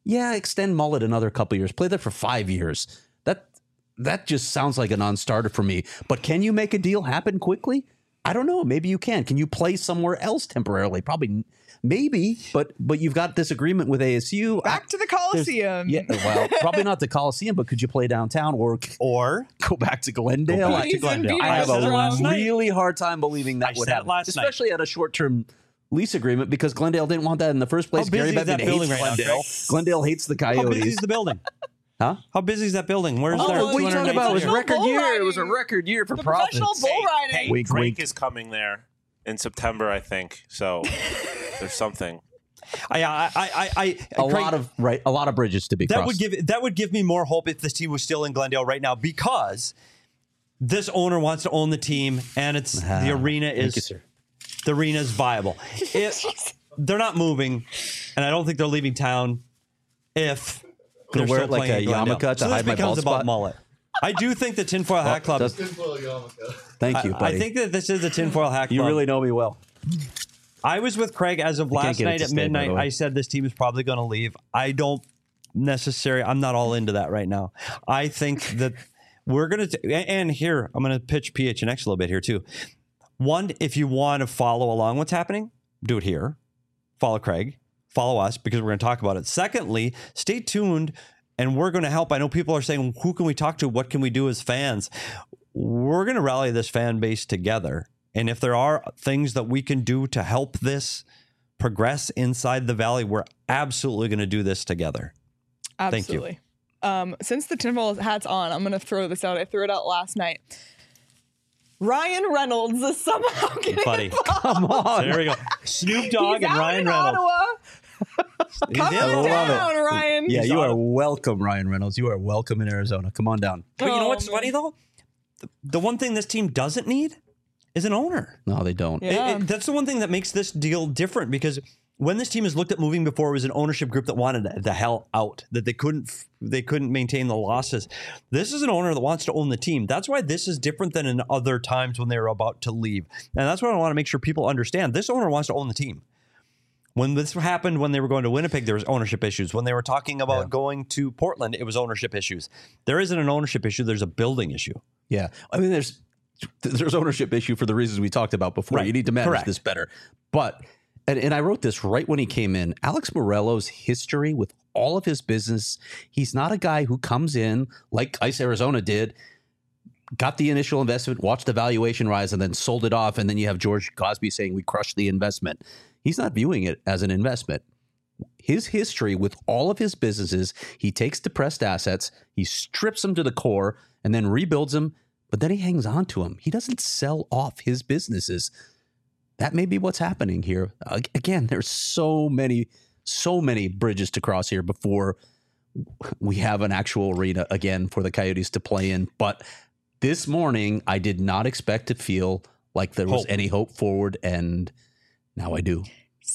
S2: Yeah, extend Mullet another couple years. Play there for five years. That that just sounds like a non-starter for me. But can you make a deal happen quickly? I don't know. Maybe you can. Can you play somewhere else temporarily? Probably, maybe. But but you've got this agreement with A S U.
S1: Back to the Coliseum.
S2: Yeah, well, probably not the Coliseum, but could you play downtown or
S3: Or
S2: go back to Glendale?
S3: Go back
S2: I,
S3: to Glendale.
S2: I have
S3: I said it
S2: a
S3: last night.
S2: really hard time believing that
S3: I
S2: would
S3: said it
S2: happen,
S3: last night.
S2: especially at a short-term lease agreement, because Glendale didn't want that in the first place.
S3: How busy
S2: Gary
S3: is that
S2: Bettman
S3: building
S2: hates
S3: right now,
S2: Glendale.
S3: Greg?
S2: Glendale hates the
S3: How busy is
S2: Coyotes.
S3: the building?
S2: Huh?
S3: How busy is that building? Where's
S2: Oh,
S3: there?
S2: what are you talking about? It was a
S1: Professional
S2: record
S1: bull
S2: year. It was a
S1: riding.
S2: record year for
S1: The
S2: profits.
S1: professional bull riding.
S5: Hey,
S2: Wink,
S5: Drake
S2: wink.
S5: is coming there in September, I think. So there's something.
S3: I, I, I, I,
S2: A
S3: Craig,
S2: lot of right, a lot of bridges to be
S3: that
S2: crossed.
S3: would give that would give me more hope if this team was still in Glendale right now, because this owner wants to own the team, and it's
S2: Ah,
S3: the arena
S2: thank
S3: is
S2: you, sir.
S3: the arena is viable. If they're not moving, and I don't think they're leaving town if
S2: Gonna
S3: they're
S2: wear
S3: still
S2: it like
S3: playing
S2: a
S3: at Glendale.
S2: yarmulke to
S3: so
S2: hide
S3: this
S2: my
S3: becomes
S2: bald
S3: about
S2: spot?
S3: mullet. I do think the Tinfoil Hat Club.
S2: does- Thank you,
S3: I,
S2: buddy.
S3: I think that this is a Tinfoil Hat Club.
S2: you really know me well.
S3: I was with Craig as of
S2: can't
S3: last
S2: get it
S3: night
S2: to
S3: at
S2: stay, by the
S3: midnight.
S2: way.
S3: I said this team is probably going to leave. I don't necessarily, I'm not all into that right now. I think that we're going to, and here, I'm going to pitch P H N X a little bit here too. One, if you want to follow along what's happening, do it here. Follow Craig, follow us, because we're going to talk about it. Secondly, stay tuned, and we're going to help. I know people are saying, who can we talk to? What can we do as fans? We're going to rally this fan base together. And if there are things that we can do to help this progress inside the Valley, we're absolutely going to do this together. Thank you.
S1: Absolutely. Um, since the tinfoil hat's on, I'm going to throw this out. I threw it out last night. Ryan Reynolds is somehow getting
S3: Buddy,
S1: involved.
S2: Come on.
S3: there we go. Snoop Dogg
S1: He's
S3: and
S1: out
S3: Ryan
S1: in
S3: Reynolds.
S1: Ottawa. Come
S3: did.
S2: I love
S1: down,
S2: it.
S1: Ryan.
S2: Yeah,
S3: He's
S2: you
S3: on
S2: are
S3: it.
S2: welcome, Ryan Reynolds. You are welcome in Arizona. Come on down.
S3: But you know
S1: Oh,
S3: what's
S1: man.
S3: funny, though? The, the one thing this team doesn't need is an owner.
S2: No, they don't.
S3: It-
S1: Yeah.
S3: it- that's the one thing that makes this deal different, because when this team has looked at moving before, it was an ownership group that wanted the hell out, that they couldn't they couldn't maintain the losses. This is an owner that wants to own the team. That's why this is different than in other times when they were about to leave. And that's what I want to make sure people understand. This owner wants to own the team. When this happened, when they were going to Winnipeg, there was ownership issues. When they were talking about
S2: Yeah.
S3: going to Portland, it was ownership issues. There isn't an ownership issue. There's a building issue.
S2: Yeah. I mean, there's there's ownership issue for the reasons we talked about before.
S3: Right.
S2: You need to manage
S3: Correct.
S2: this better. But, and, and I wrote this right when he came in, Alex Morello's history with all of his business, he's not a guy who comes in like Ice Arizona did, got the initial investment, watched the valuation rise, and then sold it off. And then you have George Cosby saying we crushed the investment. He's not viewing it as an investment. His history with all of his businesses, he takes depressed assets, he strips them to the core, and then rebuilds them, but then he hangs on to them. He doesn't sell off his businesses. That may be what's happening here. Ag- Again, there's so many, so many bridges to cross here before we have an actual arena again for the Coyotes to play in. But this morning, I did not expect to feel like there was
S3: Hope.
S2: any hope forward, and now I do.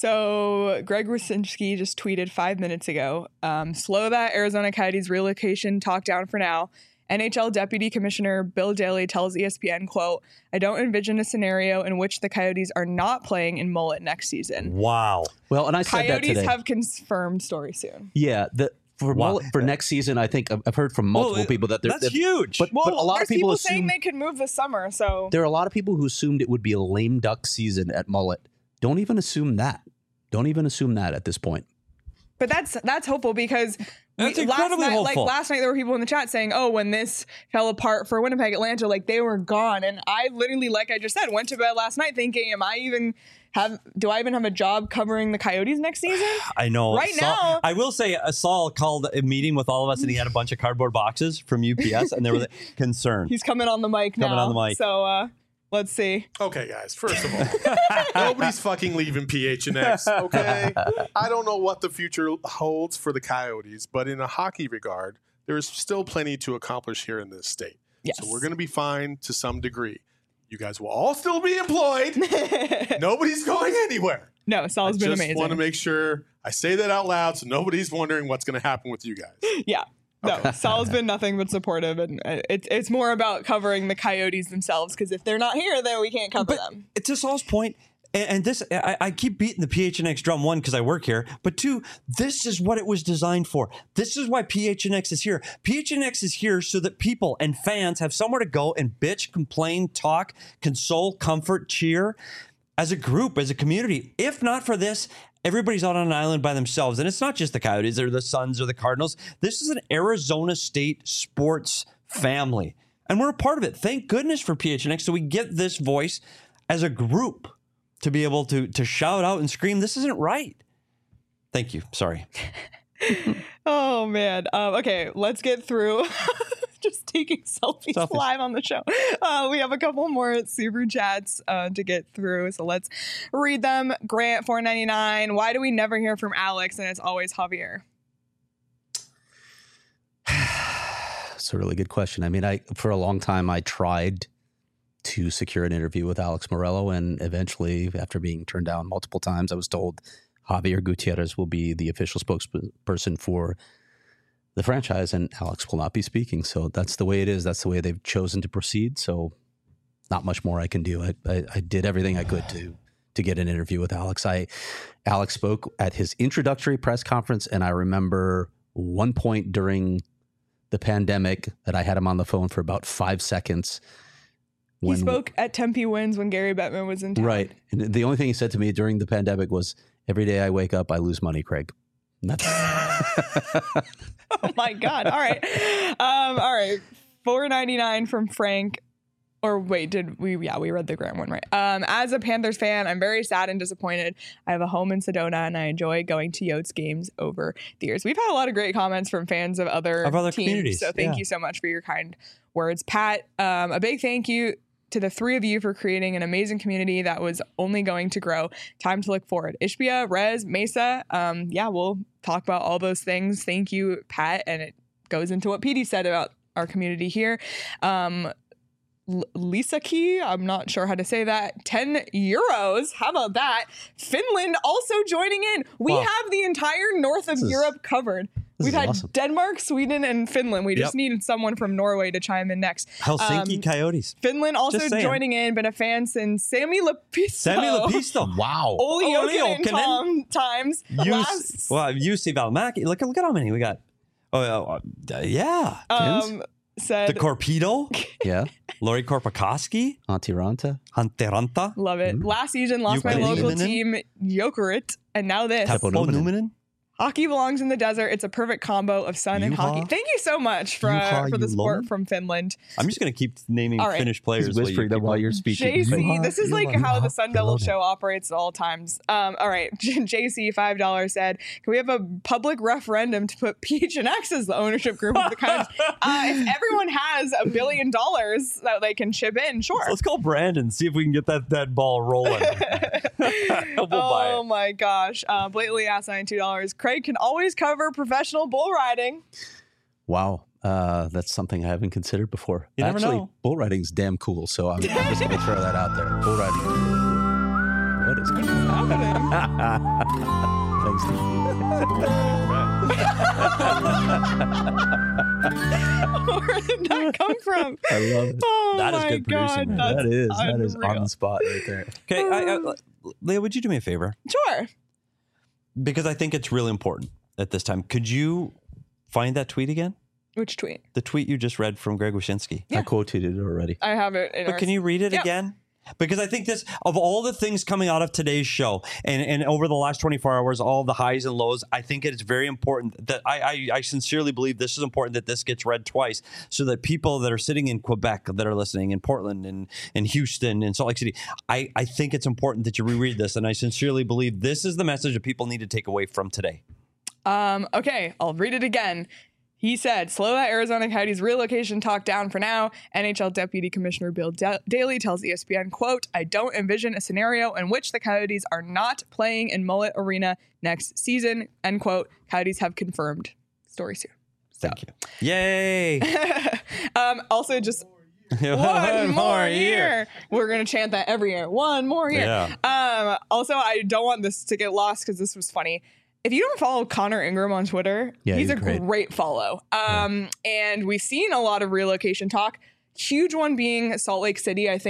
S1: So Greg Wyszynski just tweeted five minutes ago, um, slow that Arizona Coyotes relocation talk down for now. N H L Deputy Commissioner Bill Daly tells E S P N, quote, I don't envision a scenario in which the Coyotes are not playing in Mullet next season.
S3: Wow.
S2: Well, and I said that
S1: Coyotes
S2: today.
S1: have confirmed story soon.
S2: Yeah, the, for
S3: Wow.
S2: mullet- for next season, I think I've I've heard from multiple
S3: Well,
S2: people that they're
S3: That's
S2: that-
S3: huge.
S2: But,
S1: Well,
S2: but a lot
S1: there's
S2: of people,
S1: saying
S2: assume
S1: they could move this summer, so
S2: there are a lot of people who assumed it would be a lame duck season at Mullet. Don't even assume that. Don't even assume that at this point.
S1: but that's that's hopeful because
S3: That's
S1: we, last
S3: incredibly
S1: night,
S3: hopeful.
S1: like last night, there were people in the chat saying, "Oh, when this fell apart for Winnipeg, Atlanta, like they were gone." And I literally, like I just said, went to bed last night thinking, "Am I even have? Do I even have a job covering the Coyotes next season?"
S3: I know.
S1: Right
S3: Saul-
S1: now-
S3: I will say, uh, Saul called a meeting with all of us, and he had a bunch of cardboard boxes from U P S, and there was concern.
S1: He's coming on the mic now.
S3: Coming on the mic.
S1: So uh, let's see.
S6: Okay, guys, first of all, nobody's fucking leaving P H N X, okay? I don't know what the future holds for the Coyotes, but in a hockey regard, there is still plenty to accomplish here in this state.
S1: Yes.
S6: So we're going to be fine to some degree. You guys will all still be employed. Nobody's going anywhere.
S1: No, Sal's
S6: I
S1: been
S6: just
S1: amazing.
S6: want to make sure I say that out loud so nobody's wondering what's going to happen with you guys.
S1: Yeah. No, Sal's been nothing but supportive, and uh, it's it's more about covering the Coyotes themselves because if they're not here, then we can't cover
S3: But
S1: them.
S3: to Saul's point, And, and this, I, I keep beating the P H N X drum, one, because I work here, but two, this is what it was designed for. This is why P H N X is here. P H N X is here so that people and fans have somewhere to go and bitch, complain, talk, console, comfort, cheer as a group, as a community. If not for this, everybody's out on an island by themselves. And it's not just the Coyotes or the Suns or the Cardinals. This is an Arizona State sports family. And we're a part of it. Thank goodness for P H N X. So we get this voice as a group to be able to to shout out and scream, this isn't right. Thank you. Sorry.
S1: Oh, man. Um, okay, let's get through. Just taking selfies,
S3: Selfies.
S1: live on the show. Uh, we have a couple more super chats uh, to get through, so let's read them. Grant four ninety-nine. Why do we never hear from Alex and it's always Javier?
S2: It's a really good question. I mean, I for a long time I tried to secure an interview with Alex Morello, and eventually, after being turned down multiple times, I was told Javier Gutierrez will be the official spokesperson for the franchise, and Alex will not be speaking. So that's the way it is. That's the way they've chosen to proceed. So not much more I can do. I, I, I did everything I could to to get an interview with Alex. I Alex spoke at his introductory press conference, and I remember one point during the pandemic that I had him on the phone for about five seconds.
S1: When, he spoke at Tempe Winds when Gary Bettman was in town.
S2: Right. And the only thing he said to me during the pandemic was, every day I wake up, I lose money, Craig. And that's
S1: oh, my God. All right. Um, all right. four ninety-nine from Frank. Or wait, did we? Yeah, we read the Grant one, right? Um, as a Panthers fan, I'm very sad and disappointed. I have a home in Sedona, and I enjoy going to Yotes games over the years. We've had a lot of great comments from fans of other,
S3: of other
S1: teams,
S3: communities.
S1: So thank
S3: yeah.
S1: you so much for your kind words. Pat, um, a big thank you to the three of you for creating an amazing community that was only going to grow. Time to look forward. Ishbia, Rez, Mesa. Um, yeah, we'll talk about all those things. Thank you, Pat. And it goes into what Petey said about our community here. Um, L- Lisa Key, I'm not sure how to say that. ten euros. How about that? Finland also joining in. We
S3: Wow.
S1: have the entire north of
S2: This is-
S1: Europe covered.
S2: this
S1: We've
S2: is
S1: had
S2: awesome.
S1: Denmark, Sweden, and Finland. We just
S3: Yep.
S1: needed someone from Norway to chime in next.
S3: Helsinki
S1: Um,
S3: Coyotes.
S1: Finland also
S3: Just saying.
S1: joining in, been a fan since Sammy Lepisto.
S3: Sammy Lepisto.
S2: wow.
S1: Oli
S3: Olli
S1: Jokinen
S3: Jokinen.
S1: Tom times.
S3: U C,
S1: Last,
S3: well, U C Valmaki. Look, look at how many we got. Oh, uh, uh, yeah.
S1: um, said,
S3: The Corpedo,
S2: Yeah.
S3: Lori Korpakoski,
S2: Antiranta.
S3: Hanteranta,
S1: love it. Last season, lost my
S3: Jukka
S1: local
S3: Nieminen.
S1: team, Jokerit, and now this.
S2: Teppo
S3: Teppo
S2: Numminen.
S3: Numminen.
S1: Hockey belongs in the desert. It's a perfect combo of sun and
S3: Juha.
S1: hockey. Thank you so much for uh,
S3: Juha
S1: for the support
S3: Julonen.
S1: from Finland.
S3: I'm just going to keep naming
S1: All right.
S3: Finnish players.
S2: He's
S3: while you
S2: whispering
S3: keep
S2: them while
S3: going.
S2: you're speaking.
S1: J C,
S3: Juha
S1: this is like
S3: Julonen.
S1: how the Sun Devil
S3: Julonen.
S1: show operates at all times. Um, all right, J C five dollars said, "Can we have a public referendum to put P H N X as the ownership group of the Coyotes? uh, if everyone has a billion dollars that they can chip in, sure."
S3: Let's call Brandon, see if we can get that, that ball rolling. we'll buy
S1: Oh
S3: it.
S1: my gosh! Uh, blatantly asinine two dollars. Craig can always cover professional bull riding.
S2: Wow. Uh, that's something I haven't considered before.
S3: You never
S2: Actually,
S3: know.
S2: bull riding's damn cool. So I'm, I'm just going to throw that out there. Bull riding. What is
S1: What's
S2: going on?
S1: happening?
S2: Thanks, Steve.
S1: Where did that come from?
S2: I love it.
S1: Oh
S3: That is
S1: my
S3: good producing,
S1: God,
S3: man.
S1: that's
S2: That is. That is
S1: unreal.
S2: on the spot right there.
S3: Okay, I, I, Leah, would you do me a favor?
S1: Sure.
S3: Because I think it's really important at this time. Could you find that tweet again?
S1: Which tweet?
S3: The tweet you just read from Greg Wyshynski.
S1: Yeah.
S2: I quoted it already.
S1: I have it. In
S3: But
S1: our-
S3: can you read it
S1: Yeah.
S3: again? Because I think this, of all the things coming out of today's show and, and over the last twenty-four hours, all the highs and lows, I think it is very important that I, I, I sincerely believe this is important that this gets read twice so that people that are sitting in Quebec that are listening, in Portland and, and Houston and Salt Lake City, I, I think it's important that you reread this. And I sincerely believe this is the message that people need to take away from today.
S1: Um, okay, I'll read it again. He said, slow that Arizona Coyotes relocation talk down for now. N H L Deputy Commissioner Bill Da- Daly tells E S P N, quote, I don't envision a scenario in which the Coyotes are not playing in Mullet Arena next season, end quote. Coyotes have confirmed. Story soon.
S3: Thank you. Yay.
S1: um, also, just one more year. We're going to chant that every year. One more year.
S3: Yeah.
S1: Um, also, I don't want this to get lost because this was funny. If you don't follow Connor Ingram on Twitter,
S2: Yeah,
S1: he's,
S2: he's
S1: a
S2: great.
S1: great follow. Um, And we've seen a lot of relocation talk. Huge one being Salt Lake City. I think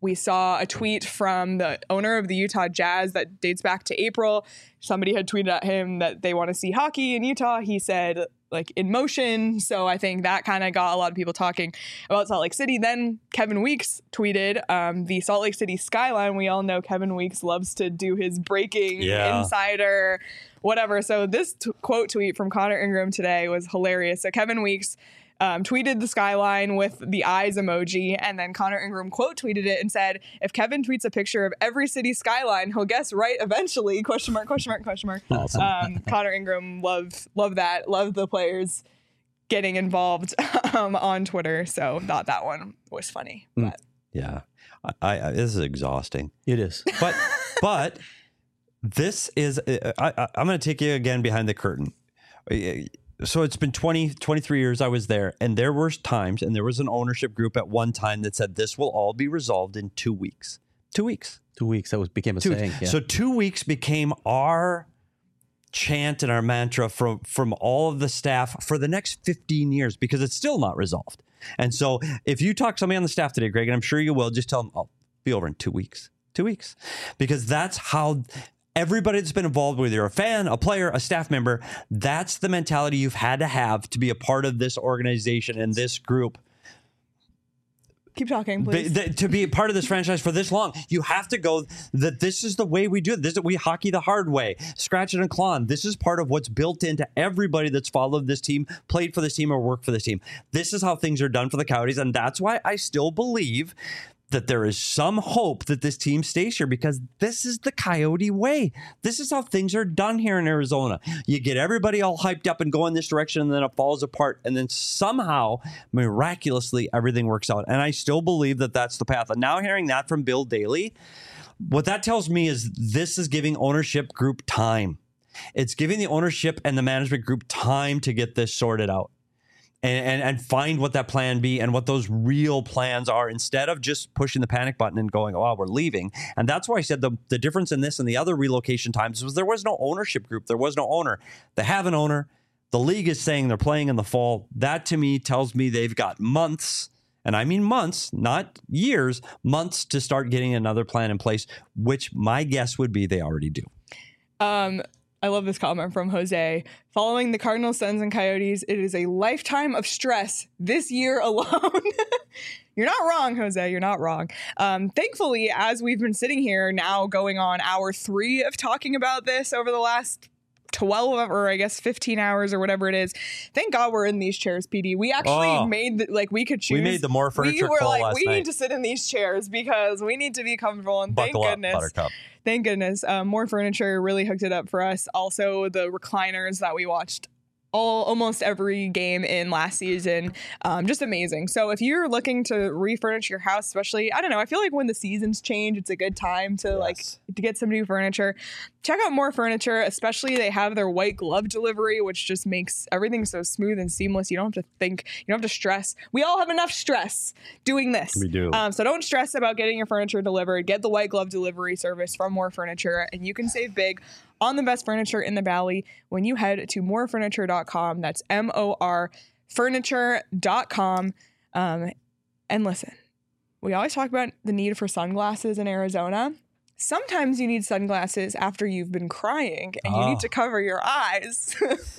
S1: we saw a tweet from the owner of the Utah Jazz that dates back to April. Somebody had tweeted at him that they want to see hockey in Utah. He said, like, in motion. So I think that kind of got a lot of people talking about Salt Lake City. Then Kevin Weeks tweeted um, the Salt Lake City skyline. We all know Kevin Weeks loves to do his breaking
S3: Yeah.
S1: insider, whatever. So this t- quote tweet from Connor Ingram today was hilarious. So Kevin Weeks Um, tweeted the skyline with the eyes emoji, and then Connor Ingram quote tweeted it and said, if Kevin tweets a picture of every city skyline, he'll guess right eventually, question mark, question mark, question mark.
S2: Awesome.
S1: Um, Connor Ingram, love, love that. Love the players getting involved um, on Twitter. So thought that one was funny.
S2: Mm.
S1: But.
S3: Yeah. I, I, this is exhausting.
S2: It is.
S3: But, but this is, I, I, I'm going to take you again behind the curtain. So it's been twenty, twenty-three years I was there, and there were times, and there was an ownership group at one time that said this will all be resolved in two weeks. Two weeks.
S2: Two weeks. That was became a
S3: Two
S2: saying.
S3: weeks.
S2: Yeah.
S3: So two weeks became our chant and our mantra from, from all of the staff for the next fifteen years, because it's still not resolved. And so if you talk to somebody on the staff today, Greg, and I'm sure you will, just tell them, I'll be over in two weeks. Two weeks. Because that's how... Everybody that's been involved, whether you're a fan, a player, a staff member, that's the mentality you've had to have to be a part of this organization and this group.
S1: Keep talking,
S3: But
S1: please.
S3: th- to be a part of this franchise for this long, you have to go that this is the way we do it. This is, we hockey the hard way, scratch it and claw. This is part of what's built into everybody that's followed this team, played for this team, or worked for this team. This is how things are done for the Coyotes, and that's why I still believe that there is some hope that this team stays here, because this is the Coyote way. This is how things are done here in Arizona. You get everybody all hyped up and go in this direction, and then it falls apart. And then somehow, miraculously, everything works out. And I still believe that that's the path. And now hearing that from Bill Daly, what that tells me is this is giving ownership group time. It's giving the ownership and the management group time to get this sorted out. And, and and find what that plan be and what those real plans are, instead of just pushing the panic button and going, oh, we're leaving. And that's why I said the, the difference in this and the other relocation times was there was no ownership group. There was no owner. They have an owner. The league is saying they're playing in the fall. That to me tells me they've got months, and I mean months, not years, months to start getting another plan in place, which my guess would be they already do.
S1: Um, I love this comment from Jose. Following the Cardinals, Suns, and Coyotes, it is a lifetime of stress this year alone. You're not wrong, Jose. You're not wrong. Um, thankfully, as we've been sitting here now going on hour three of talking about this over the last twelve or I guess fifteen hours or whatever it is. Thank God we're in these chairs, P D. We actually
S3: Oh.
S1: made the, like we could choose.
S3: We made the more furniture
S1: We were
S3: call
S1: like,
S3: last
S1: we
S3: night.
S1: need to sit in these chairs because we need to be comfortable. And
S3: Buckle
S1: thank
S3: up,
S1: goodness.
S3: Buttercup.
S1: Thank goodness. Um, More Furniture really hooked it up for us. Also, the recliners that we watched all almost every game in last season. Um, just amazing. So if you're looking to refurnish your house, especially, I don't know, I feel like when the seasons change, it's a good time to like to get some new furniture. Check out More Furniture, especially they have their white glove delivery, which just makes everything so smooth and seamless. You don't have to think, you don't have to stress. We all have enough stress doing this.
S3: We do.
S1: Um, so don't stress about getting your furniture delivered. Get the white glove delivery service from More Furniture, and you can save big on the best furniture in the Valley when you head to more furniture dot com. That's M O R furniture dot com. Um, and listen, we always talk about the need for sunglasses in Arizona. Sometimes you need sunglasses after you've been crying and you
S3: Oh.
S1: need to cover your eyes.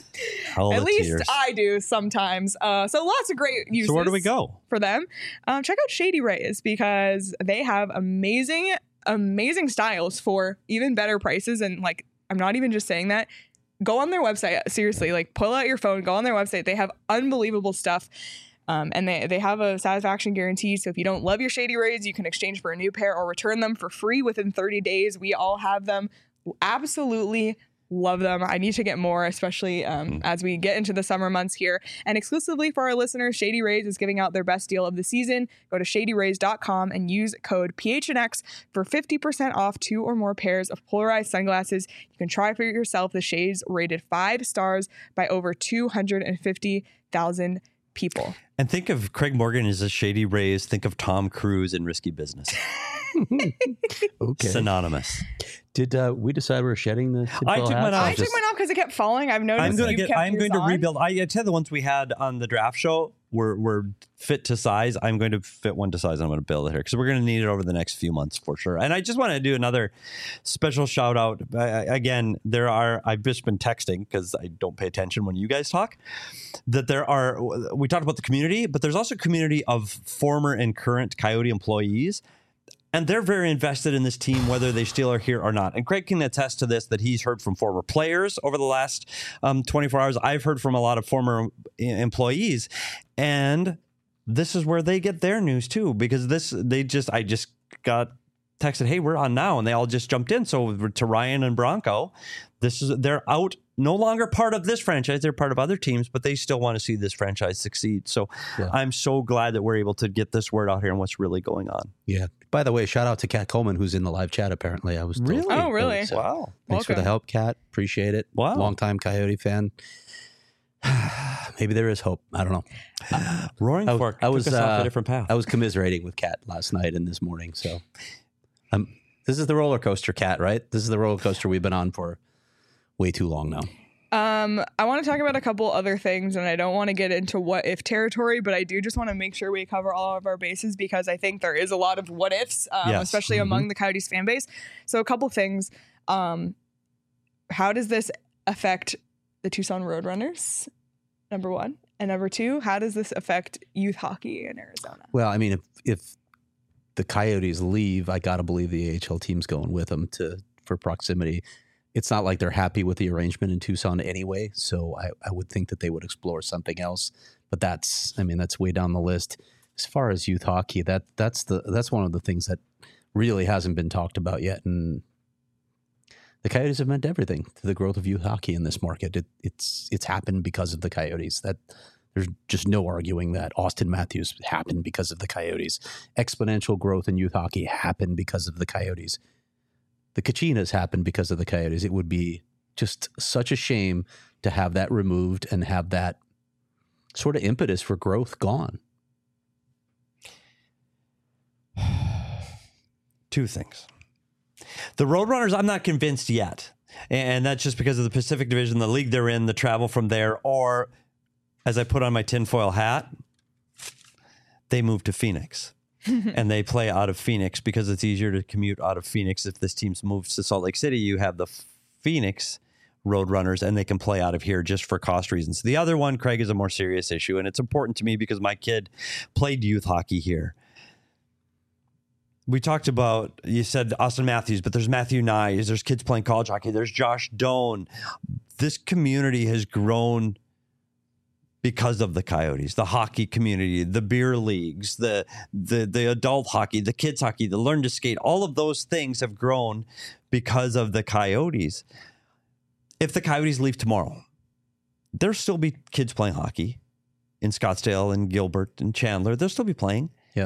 S3: All
S1: At
S3: the
S1: least
S3: tears.
S1: I do sometimes. Uh, so lots of great uses
S3: So where do we go?
S1: for them. Um, check out Shady Rays because they have amazing, amazing styles for even better prices. And like, I'm not even just saying that. Go on their website. Seriously, like pull out your phone, go on their website. They have unbelievable stuff. Um, and they, they have a satisfaction guarantee. So if you don't love your Shady Rays, you can exchange for a new pair or return them for free within thirty days. We all have them. Absolutely love them. I need to get more, especially um, as we get into the summer months here. And exclusively for our listeners, Shady Rays is giving out their best deal of the season. Go to shady rays dot com and use code P H N X for fifty percent off two or more pairs of polarized sunglasses. You can try for yourself the shades rated five stars by over two hundred fifty thousand people.
S3: And think of Craig Morgan as a Shady Rays. Think of Tom Cruise in Risky Business.
S2: Okay.
S3: Synonymous.
S2: Did uh, we decide we're shedding the?
S3: I
S2: tinfoil
S3: took mine
S2: hats?
S3: off.
S1: I
S3: I
S1: took
S3: just-
S1: mine off because it kept falling. I've noticed
S3: I'm gonna
S1: you've
S3: get.
S1: kept
S3: I'm
S1: yours
S3: going to
S1: on.
S3: rebuild. I, I tell you the ones we had on the draft show. we're we're fit to size. I'm going to fit one to size. I'm going to build it here because we're going to need it over the next few months for sure. And I just want to do another special shout out. I, again, there are, I've just been texting because I don't pay attention when you guys talk, that there are, we talked about the community, but there's also a community of former and current Coyote employees. And they're very invested in this team, whether they still are here or not. And Craig can attest to this, that he's heard from former players over the last um, twenty-four hours. I've heard from a lot of former employees. And this is where they get their news, too, because this, they just, I just got texted, hey, we're on now. And they all just jumped in. So to Ryan and Bronco, this is, they're out, no longer part of this franchise. They're part of other teams, but they still want to see this franchise succeed. So yeah. I'm so glad that we're able to get this word out here and what's really going on.
S2: Yeah. By the way, shout out to Kat Coleman, who's in the live chat. Apparently, I was told.
S3: Really?
S1: Oh, really?
S2: So
S3: wow.
S2: Thanks
S1: Welcome.
S2: for the help, Kat. Appreciate it.
S3: Wow.
S2: Longtime Coyote fan. Maybe there is hope. I don't know.
S3: Roaring
S2: I,
S3: Fork
S2: I was
S3: took us off
S2: uh,
S3: a different path.
S2: I was commiserating with Kat last night and this morning. So, um, this is the roller coaster, Kat. Right? This is the roller coaster we've been on for way too long now.
S1: Um, I want to talk about a couple other things, and I don't want to get into what if territory, but I do just want to make sure we cover all of our bases because I think there is a lot of what ifs, um,
S3: Yes.
S1: especially
S2: Mm-hmm.
S1: among the Coyotes fan base. So a couple things. Um, how does this affect the Tucson Roadrunners? Number one. And number two, how does this affect youth hockey in Arizona?
S2: Well, I mean, if if the Coyotes leave, I got to believe the A H L team's going with them to for proximity. It's not like they're happy with the arrangement in Tucson anyway, so I, I would think that they would explore something else. But that's, I mean, that's way down the list. As far as youth hockey, that that's the that's one of the things that really hasn't been talked about yet. And the Coyotes have meant everything to the growth of youth hockey in this market. It, it's it's happened because of the Coyotes. That there's just no arguing that. Austin Matthews happened because of the Coyotes. Exponential growth in youth hockey happened because of the Coyotes. The Kachinas happened because of the Coyotes. It would be just such a shame to have that removed and have that sort of impetus for growth gone.
S3: Two things. The Roadrunners, I'm not convinced yet. And that's just because of the Pacific Division, the league they're in, the travel from there, or as I put on my tinfoil hat, they moved to Phoenix. And they play out of Phoenix because it's easier to commute out of Phoenix. If this team moves to Salt Lake City, you have the Phoenix Roadrunners, and they can play out of here just for cost reasons. The other one, Craig, is a more serious issue, and it's important to me because my kid played youth hockey here. We talked about, you said Austin Matthews, but there's Matthew Nyes, there's kids playing college hockey, there's Josh Doan. This community has grown because of the Coyotes, the hockey community, the beer leagues, the, the the adult hockey, the kids hockey, the learn to skate, all of those things have grown because of the Coyotes. If the Coyotes leave tomorrow, there'll still be kids playing hockey in Scottsdale and Gilbert and Chandler. They'll still be playing.
S2: Yeah.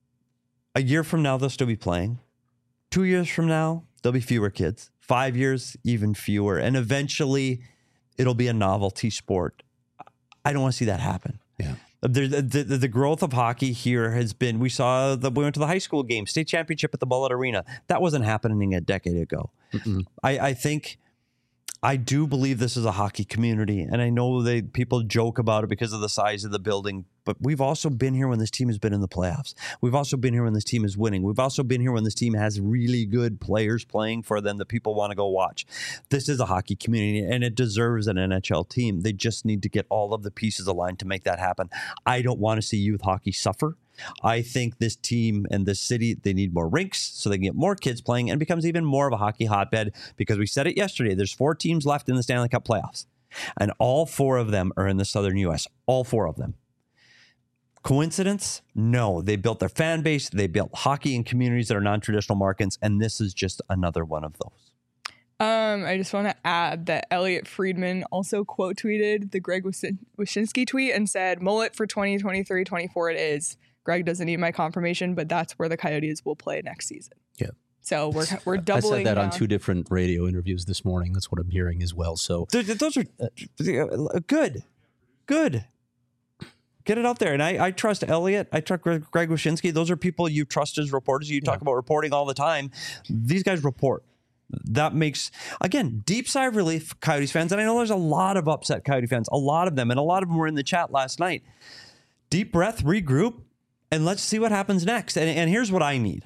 S3: A year from now, they'll still be playing. Two years from now, there'll be fewer kids. Five years, even fewer. And eventually, it'll be a novelty sport. I don't want to see that happen.
S2: Yeah.
S3: The, the, the, the growth of hockey here has been, we saw that we went to the high school game, state championship at the Bullet Arena. That wasn't happening a decade ago. I, I think, I do believe this is a hockey community. And I know they people joke about it because of the size of the building, but we've also been here when this team has been in the playoffs. We've also been here when this team is winning. We've also been here when this team has really good players playing for them that people want to go watch. This is a hockey community, and it deserves an N H L team. They just need to get all of the pieces aligned to make that happen. I don't want to see youth hockey suffer. I think this team and this city, they need more rinks so they can get more kids playing and it becomes even more of a hockey hotbed because we said it yesterday. There's four teams left in the Stanley Cup playoffs, and all four of them are in the Southern U S. All four of them. Coincidence? No. They built their fan base. They built hockey in communities that are non-traditional markets, and this is just another one of those.
S1: Um, I just want to add that Elliot Friedman also quote tweeted the Greg Wyshynski tweet and said, "Mullet for twenty twenty-three twenty-four it is. Greg doesn't need my confirmation, but that's where the Coyotes will play next season."
S2: Yeah.
S1: So we're we're
S2: I
S1: doubling.
S2: said that on
S1: down.
S2: two different radio interviews this morning. That's what I'm hearing as well. So
S3: Th- th- Those are uh, good. Good. Get it out there. And I, I trust Elliot. I trust Greg, Greg Wyshynski. Those are people you trust as reporters. You talk about reporting all the time. These guys report. That makes, again, deep sigh of relief, Coyotes fans. And I know there's a lot of upset Coyote fans, a lot of them. And a lot of them were in the chat last night. deep breath, regroup, and let's see what happens next. And, and here's what I need.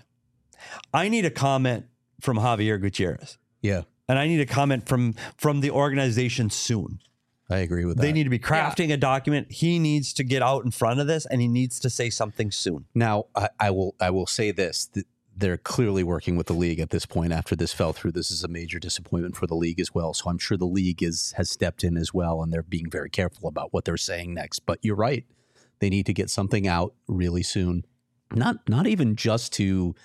S3: I need a comment from Javier Gutierrez.
S2: Yeah.
S3: And I need a comment from, from the organization soon.
S2: I agree with that.
S3: They need to be crafting yeah. a document. He needs to get out in front of this, and he needs to say something soon.
S2: Now, I, I will I will say this. They're clearly working with the league at this point after this fell through. This is a major disappointment for the league as well. So I'm sure the league is has stepped in as well, and they're being very careful about what they're saying next. But you're right. They need to get something out really soon. Not not even just to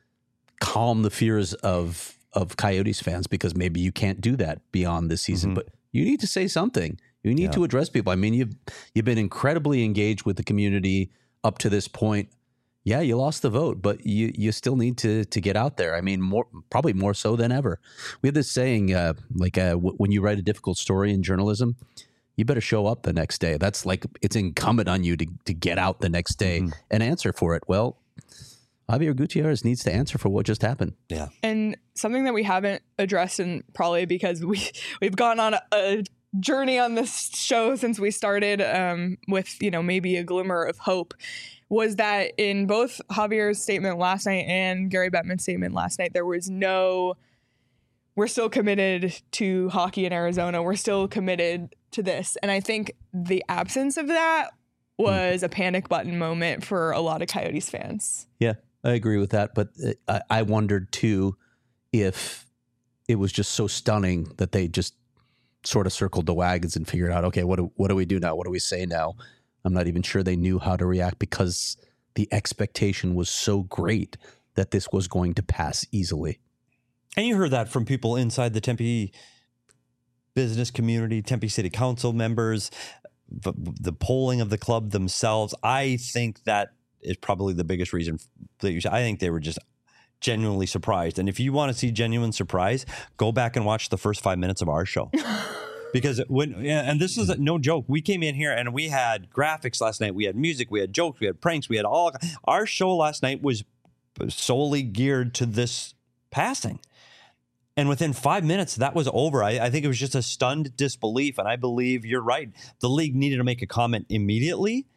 S2: calm the fears of of Coyotes fans, because maybe you can't do that beyond this season, mm-hmm. but you need to say something. You need yeah. to address people. I mean, you've you've been incredibly engaged with the community up to this point. Yeah, you lost the vote, but you you still need to to get out there. I mean, more probably more so than ever. We have this saying, uh, like uh, w- when you write a difficult story in journalism, you better show up the next day. That's like it's incumbent on you to to get out the next day mm-hmm. and answer for it. Well, Javier Gutierrez needs to answer for what just happened.
S3: Yeah.
S1: And something that we haven't addressed, and probably because we, we've gone on a, a journey on this show since we started um, with, you know, maybe a glimmer of hope, was that in both Javier's statement last night and Gary Bettman's statement last night, there was no, we're still committed to hockey in Arizona. We're still committed to this. And I think the absence of that was a panic button moment for a lot of Coyotes fans.
S2: Yeah. I agree with that, but I, I wondered too if it was just so stunning that they just sort of circled the wagons and figured out, okay, what do, what do we do now? What do we say now? I'm not even sure they knew how to react because the expectation was so great that this was going to pass easily.
S3: And you heard that from people inside the Tempe business community, Tempe City Council members, the, the polling of the club themselves. I think that is probably the biggest reason that you. I think they were just genuinely surprised. And if you want to see genuine surprise, go back and watch the first five minutes of our show. Because when, and this is no joke, we came in here and we had graphics last night. We had music, we had jokes, we had pranks, we had all. Our show last night was solely geared to this passing. And within five minutes, that was over. I, I think it was just a stunned disbelief. And I believe you're right. The league needed to make a comment immediately.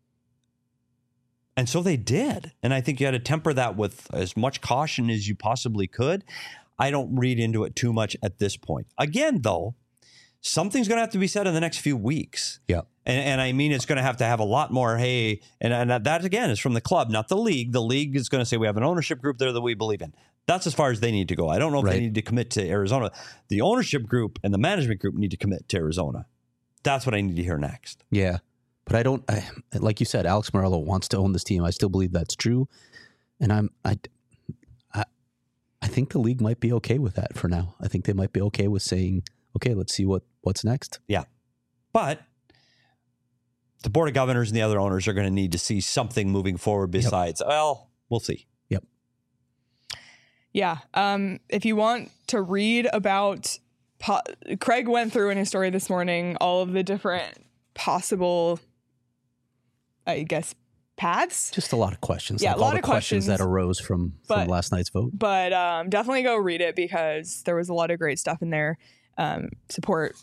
S3: And so they did. And I think you had to temper that with as much caution as you possibly could. I don't read into it too much at this point. Again, though, something's going to have to be said in the next few weeks.
S2: Yeah.
S3: And, and I mean, it's going to have to have a lot more, hey, and, and that, again, is from the club, not the league. The league is going to say we have an ownership group there that we believe in. That's as far as they need to go. I don't know if right. they need to commit to Arizona. The ownership group and the management group need to commit to Arizona. That's what I need to hear next.
S2: Yeah. But I don't, I, like you said, Alex Morello wants to own this team. I still believe that's true. And I'm, I, I, I think the league might be okay with that for now. I think they might be okay with saying, okay, let's see what, what's next.
S3: Yeah. But the board of governors and the other owners are going to need to see something moving forward besides, yep. well, we'll see.
S2: Yep.
S1: Yeah. Um, if you want to read about, po- Craig went through in his story this morning, all of the different possible, I guess, paths.
S2: Just a lot of questions.
S1: Yeah,
S2: like
S1: a lot
S2: all the
S1: of questions,
S2: questions that arose from,
S1: but,
S2: from last night's vote.
S1: But um, definitely go read it because there was a lot of great stuff in there. Um, support.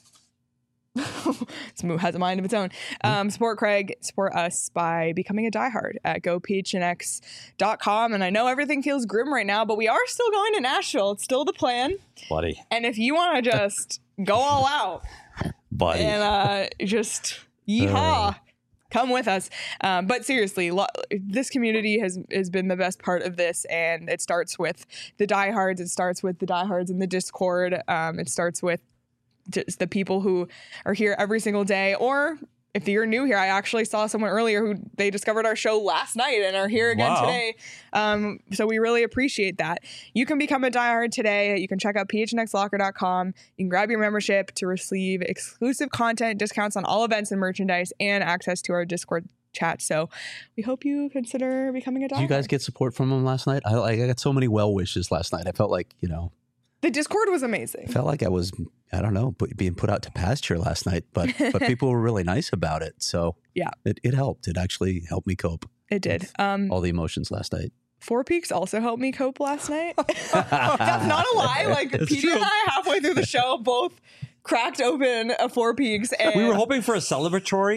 S1: It has a mind of its own. Um, support Craig, support us by becoming a diehard at go p h n x dot com. And I know everything feels grim right now, but we are still going to Nashville. It's still the plan.
S3: Buddy.
S1: And if you want to just go all out,
S3: buddy,
S1: and uh, just yeehaw, uh. come with us. Um, but seriously, lo- this community has has been the best part of this, and it starts with the diehards. It starts with the diehards in the Discord. Um, it starts with just the people who are here every single day, or if you're new here, I actually saw someone earlier who they discovered our show last night and are here again wow. today. Um, so we really appreciate that. You can become a diehard today. You can check out p h n x locker dot com. You can grab your membership to receive exclusive content, discounts on all events and merchandise, and access to our Discord chat. So we hope you consider becoming a diehard.
S2: Did you guys get support from them last night? I, I got so many well wishes last night. I felt like, you know,
S1: the Discord was amazing.
S2: I felt like I was, I don't know, being put out to pasture last night, but but people were really nice about it. So
S1: yeah,
S2: it, it helped. It actually helped me cope.
S1: It did. Um,
S2: all the emotions last night.
S1: Four Peaks also helped me cope last night. That's not a lie. Like Petey and I, halfway through the show, both cracked open a Four Peaks. And
S3: we were hoping for a celebratory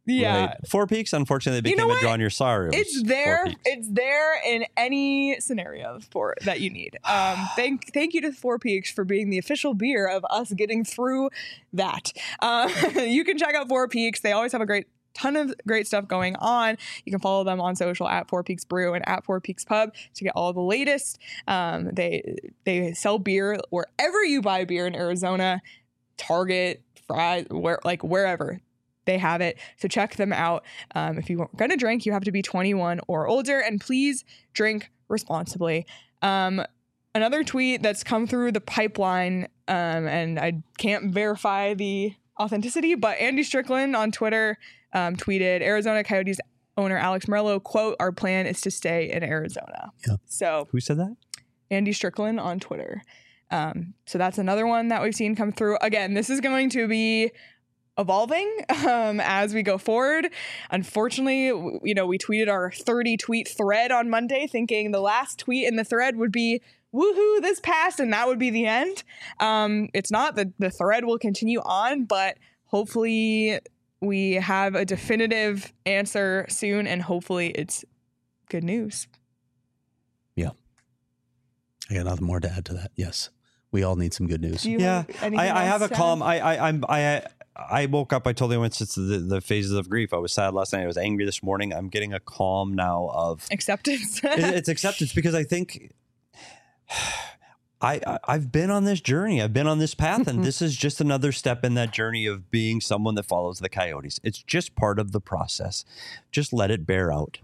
S1: Yeah.
S3: Right. Four Peaks, unfortunately, they
S1: You know
S3: became a
S1: what?
S3: draw on your sorry.
S1: It's there. It's there in any scenario for that you need. Um, thank thank you to Four Peaks for being the official beer of us getting through that. Uh, you can check out Four Peaks. They always have a great ton of great stuff going on. You can follow them on social at Four Peaks Brew and at Four Peaks Pub to get all the latest. Um, they they sell beer wherever you buy beer in Arizona, Target, Fry's, where like wherever. They have it. So check them out. Um, if you're going to drink, you have to be twenty-one or older, and please drink responsibly. Um, another tweet that's come through the pipeline, um, and I can't verify the authenticity, but Andy Strickland on Twitter um, tweeted, Arizona Coyotes owner Alex Morello, quote, our plan is to stay in Arizona. Yeah. So
S3: who said that?
S1: Andy Strickland on Twitter. Um, so that's another one that we've seen come through. Again, this is going to be evolving um, as we go forward. Unfortunately, w- you know, we tweeted our thirty tweet thread on Monday thinking the last tweet in the thread would be woohoo, this passed, and that would be the end. Um, it's not. The, the thread will continue on, but hopefully we have a definitive answer soon, and hopefully it's good news.
S2: Yeah. I got nothing more to add to that. Yes. We all need some good news.
S1: Do you
S3: Yeah,
S1: have anything
S3: I, I have a
S1: else to
S3: calm.
S1: add?
S3: I, I, I'm, I, I woke up. I totally went to the, the phases of grief. I was sad last night. I was angry this morning. I'm getting a calm now of
S1: Acceptance.
S3: it, it's acceptance because I think I, I I've been on this journey. I've been on this path, and this is just another step in that journey of being someone that follows the Coyotes. It's just part of the process. Just let it bear out.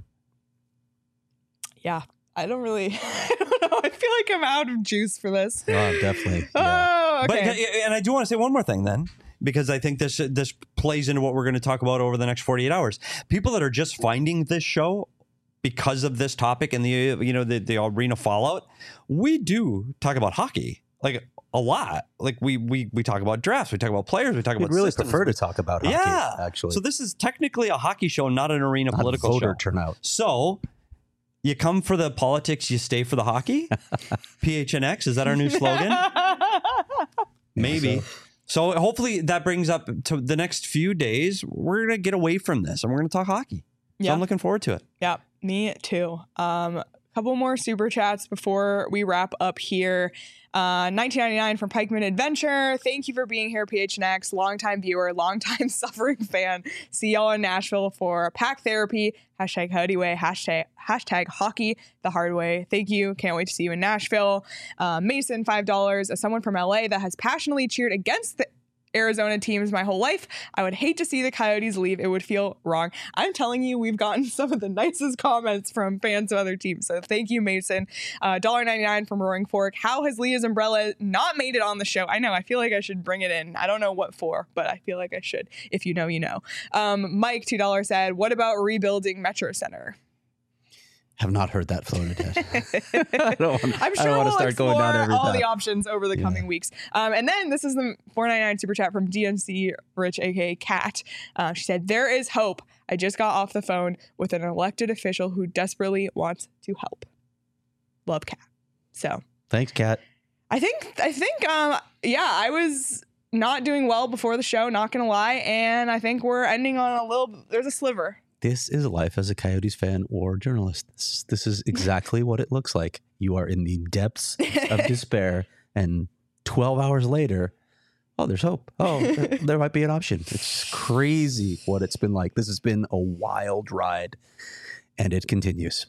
S1: Yeah, I don't really, I don't know. I feel like I'm out of juice for this.
S2: Oh, definitely. Yeah.
S1: Oh, okay.
S3: But and I do want to say one more thing then, because I think this this plays into what we're going to talk about over the next forty-eight hours. People that are just finding this show because of this topic and the you know the, the arena fallout, we do talk about hockey like a lot. Like we we we talk about drafts, we talk about players, we talk
S2: We'd
S3: about
S2: really
S3: systems.
S2: prefer to talk about hockey,
S3: yeah,
S2: actually.
S3: So this is technically a hockey show, not an arena
S2: Not
S3: political
S2: voter
S3: show.
S2: turnout.
S3: So you come for the politics, you stay for the hockey. P H N X, is that our new slogan? Maybe. So. so hopefully that brings up to the next few days. We're going to get away from this and we're going to talk hockey. So
S1: Yeah.
S3: I'm looking forward to it.
S1: Yeah, me too. Um, a couple more super chats before we wrap up here. Uh, nineteen ninety-nine from Pikeman Adventure. Thank you for being here, P H N X. Longtime viewer, longtime suffering fan. See y'all in Nashville for Pack Therapy. Hashtag Coyote Way. Hashtag, hashtag Hockey the Hard Way. Thank you. Can't wait to see you in Nashville. Uh, Mason, five dollars. As someone from L A that has passionately cheered against the Arizona teams my whole life, I would hate to see the Coyotes leave. It would feel wrong. I'm telling you, we've gotten some of the nicest comments from fans of other teams. So thank you, Mason. Uh, one dollar ninety-nine from Roaring Fork. How has Leah's Umbrella not made it on the show? I know. I feel like I should bring it in. I don't know what for, but I feel like I should. If you know, you know. Um, Mike, two dollars said, what about rebuilding Metro Center?
S2: Have not heard that floated yet. I don't want,
S1: I'm
S2: I
S1: sure
S2: don't want
S1: we'll
S2: to start
S1: explore
S2: going down every
S1: all
S2: path.
S1: the options over the
S2: Yeah.
S1: coming weeks. Um, and then this is the four ninety-nine super chat from D N C Rich, aka Kat. Uh, she said, there is hope. I just got off the phone with an elected official who desperately wants to help. Love, Kat. So
S2: Thanks, Kat.
S1: I think, I think, um, yeah, I was not doing well before the show, not going to lie. And I think we're ending on a little, there's a sliver.
S2: This is life as a Coyotes fan or journalist. This, this is exactly what it looks like. You are in the depths of despair, and twelve hours later, oh, there's hope. Oh, there, there might be an option. It's crazy what it's been like. This has been a wild ride, and it continues.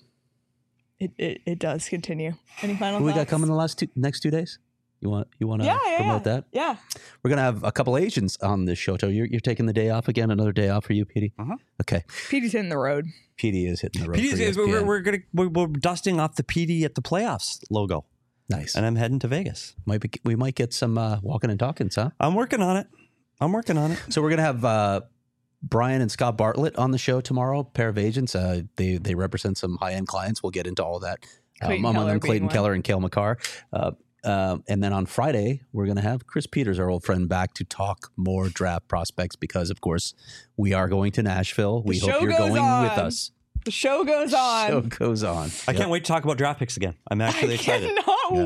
S1: It, it, it does continue. Any final
S2: What we got
S1: thoughts?
S2: coming the last two next two days? You want you want to
S1: Yeah, yeah,
S2: promote
S1: yeah.
S2: that?
S1: Yeah.
S2: We're gonna have a couple Asians on this show. So you're you're taking the day off again. Another day off for you, Petey.
S3: Uh-huh.
S2: Okay,
S1: Petey's hitting the road.
S2: Petey is hitting the road.
S3: P D,
S2: for E S P N.
S3: we're, we're gonna we're, we're dusting off the P D at the playoffs logo,
S2: Nice.
S3: and I'm heading to Vegas.
S2: Might be, we might get some uh, walking and talking, huh?
S3: I'm working on it. I'm working on it.
S2: So we're gonna have uh, Brian and Scott Bartlett on the show tomorrow. Pair of agents. Uh, they they represent some high end clients. We'll get into all of that.
S1: Clayton
S2: Um, among
S1: Keller
S2: them,
S1: being
S2: Clayton
S1: one.
S2: Keller and Cale McCarr. Uh, uh, and then on Friday, we're going to have Chris Peters, our old friend, back to talk more draft prospects because, of course, we are going to Nashville. We
S1: The
S2: hope
S1: show
S2: you're
S1: goes
S2: going
S1: on.
S2: with us.
S1: The show goes on.
S2: Show goes on.
S3: I
S2: Yep.
S3: can't wait to talk about draft picks again. I'm actually
S1: I
S3: excited.
S1: cannot
S2: Yeah.
S1: wait.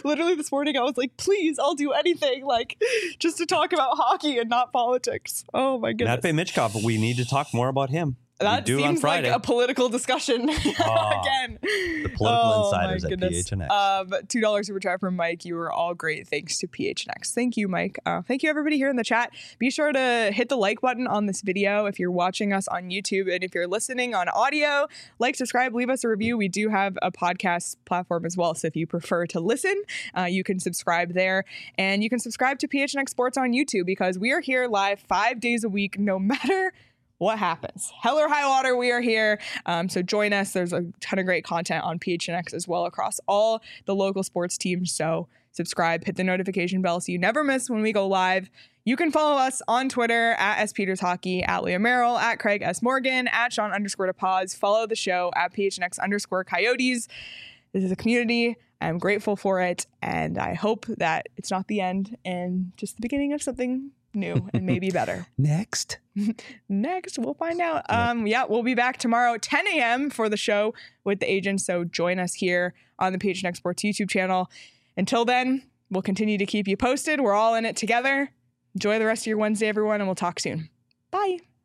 S1: literally this morning I was like, please, I'll do anything, like just to talk about hockey and not politics. Oh my goodness.
S3: Matvei Michkov, we need to talk more about him.
S1: That
S3: we do
S1: seems
S3: on Friday.
S1: like a political discussion
S3: Oh,
S1: again.
S3: The political
S1: Oh,
S3: insiders
S1: my
S3: at
S1: goodness.
S3: P H N X.
S1: Um, two dollars super chat from Mike. You were all great. Thanks to P H N X. Thank you, Mike. Uh, thank you, everybody here in the chat. Be sure to hit the like button on this video if you're watching us on YouTube. And if you're listening on audio, like, subscribe, leave us a review. We do have a podcast platform as well. So if you prefer to listen, uh, you can subscribe there. And you can subscribe to P H N X Sports on YouTube because we are here live five days a week, no matter what happens. Hell or high water, we are here. Um, so join us. There's a ton of great content on P H N X as well across all the local sports teams. So subscribe, hit the notification bell so you never miss when we go live. You can follow us on Twitter at S Peters Hockey, at Leah Merrill, at Craig S. Morgan, at Sean underscore DePaz. Follow the show at P H N X underscore Coyotes. This is a community. I'm grateful for it. And I hope that it's not the end and just the beginning of something new and maybe better.
S2: Next.
S1: Next, we'll find out. Um, yeah, we'll be back tomorrow, ten a.m. for the show with the agents. So join us here on the P H N X Sports YouTube channel. Until then, we'll continue to keep you posted. We're all in it together. Enjoy the rest of your Wednesday, everyone, and we'll talk soon. Bye.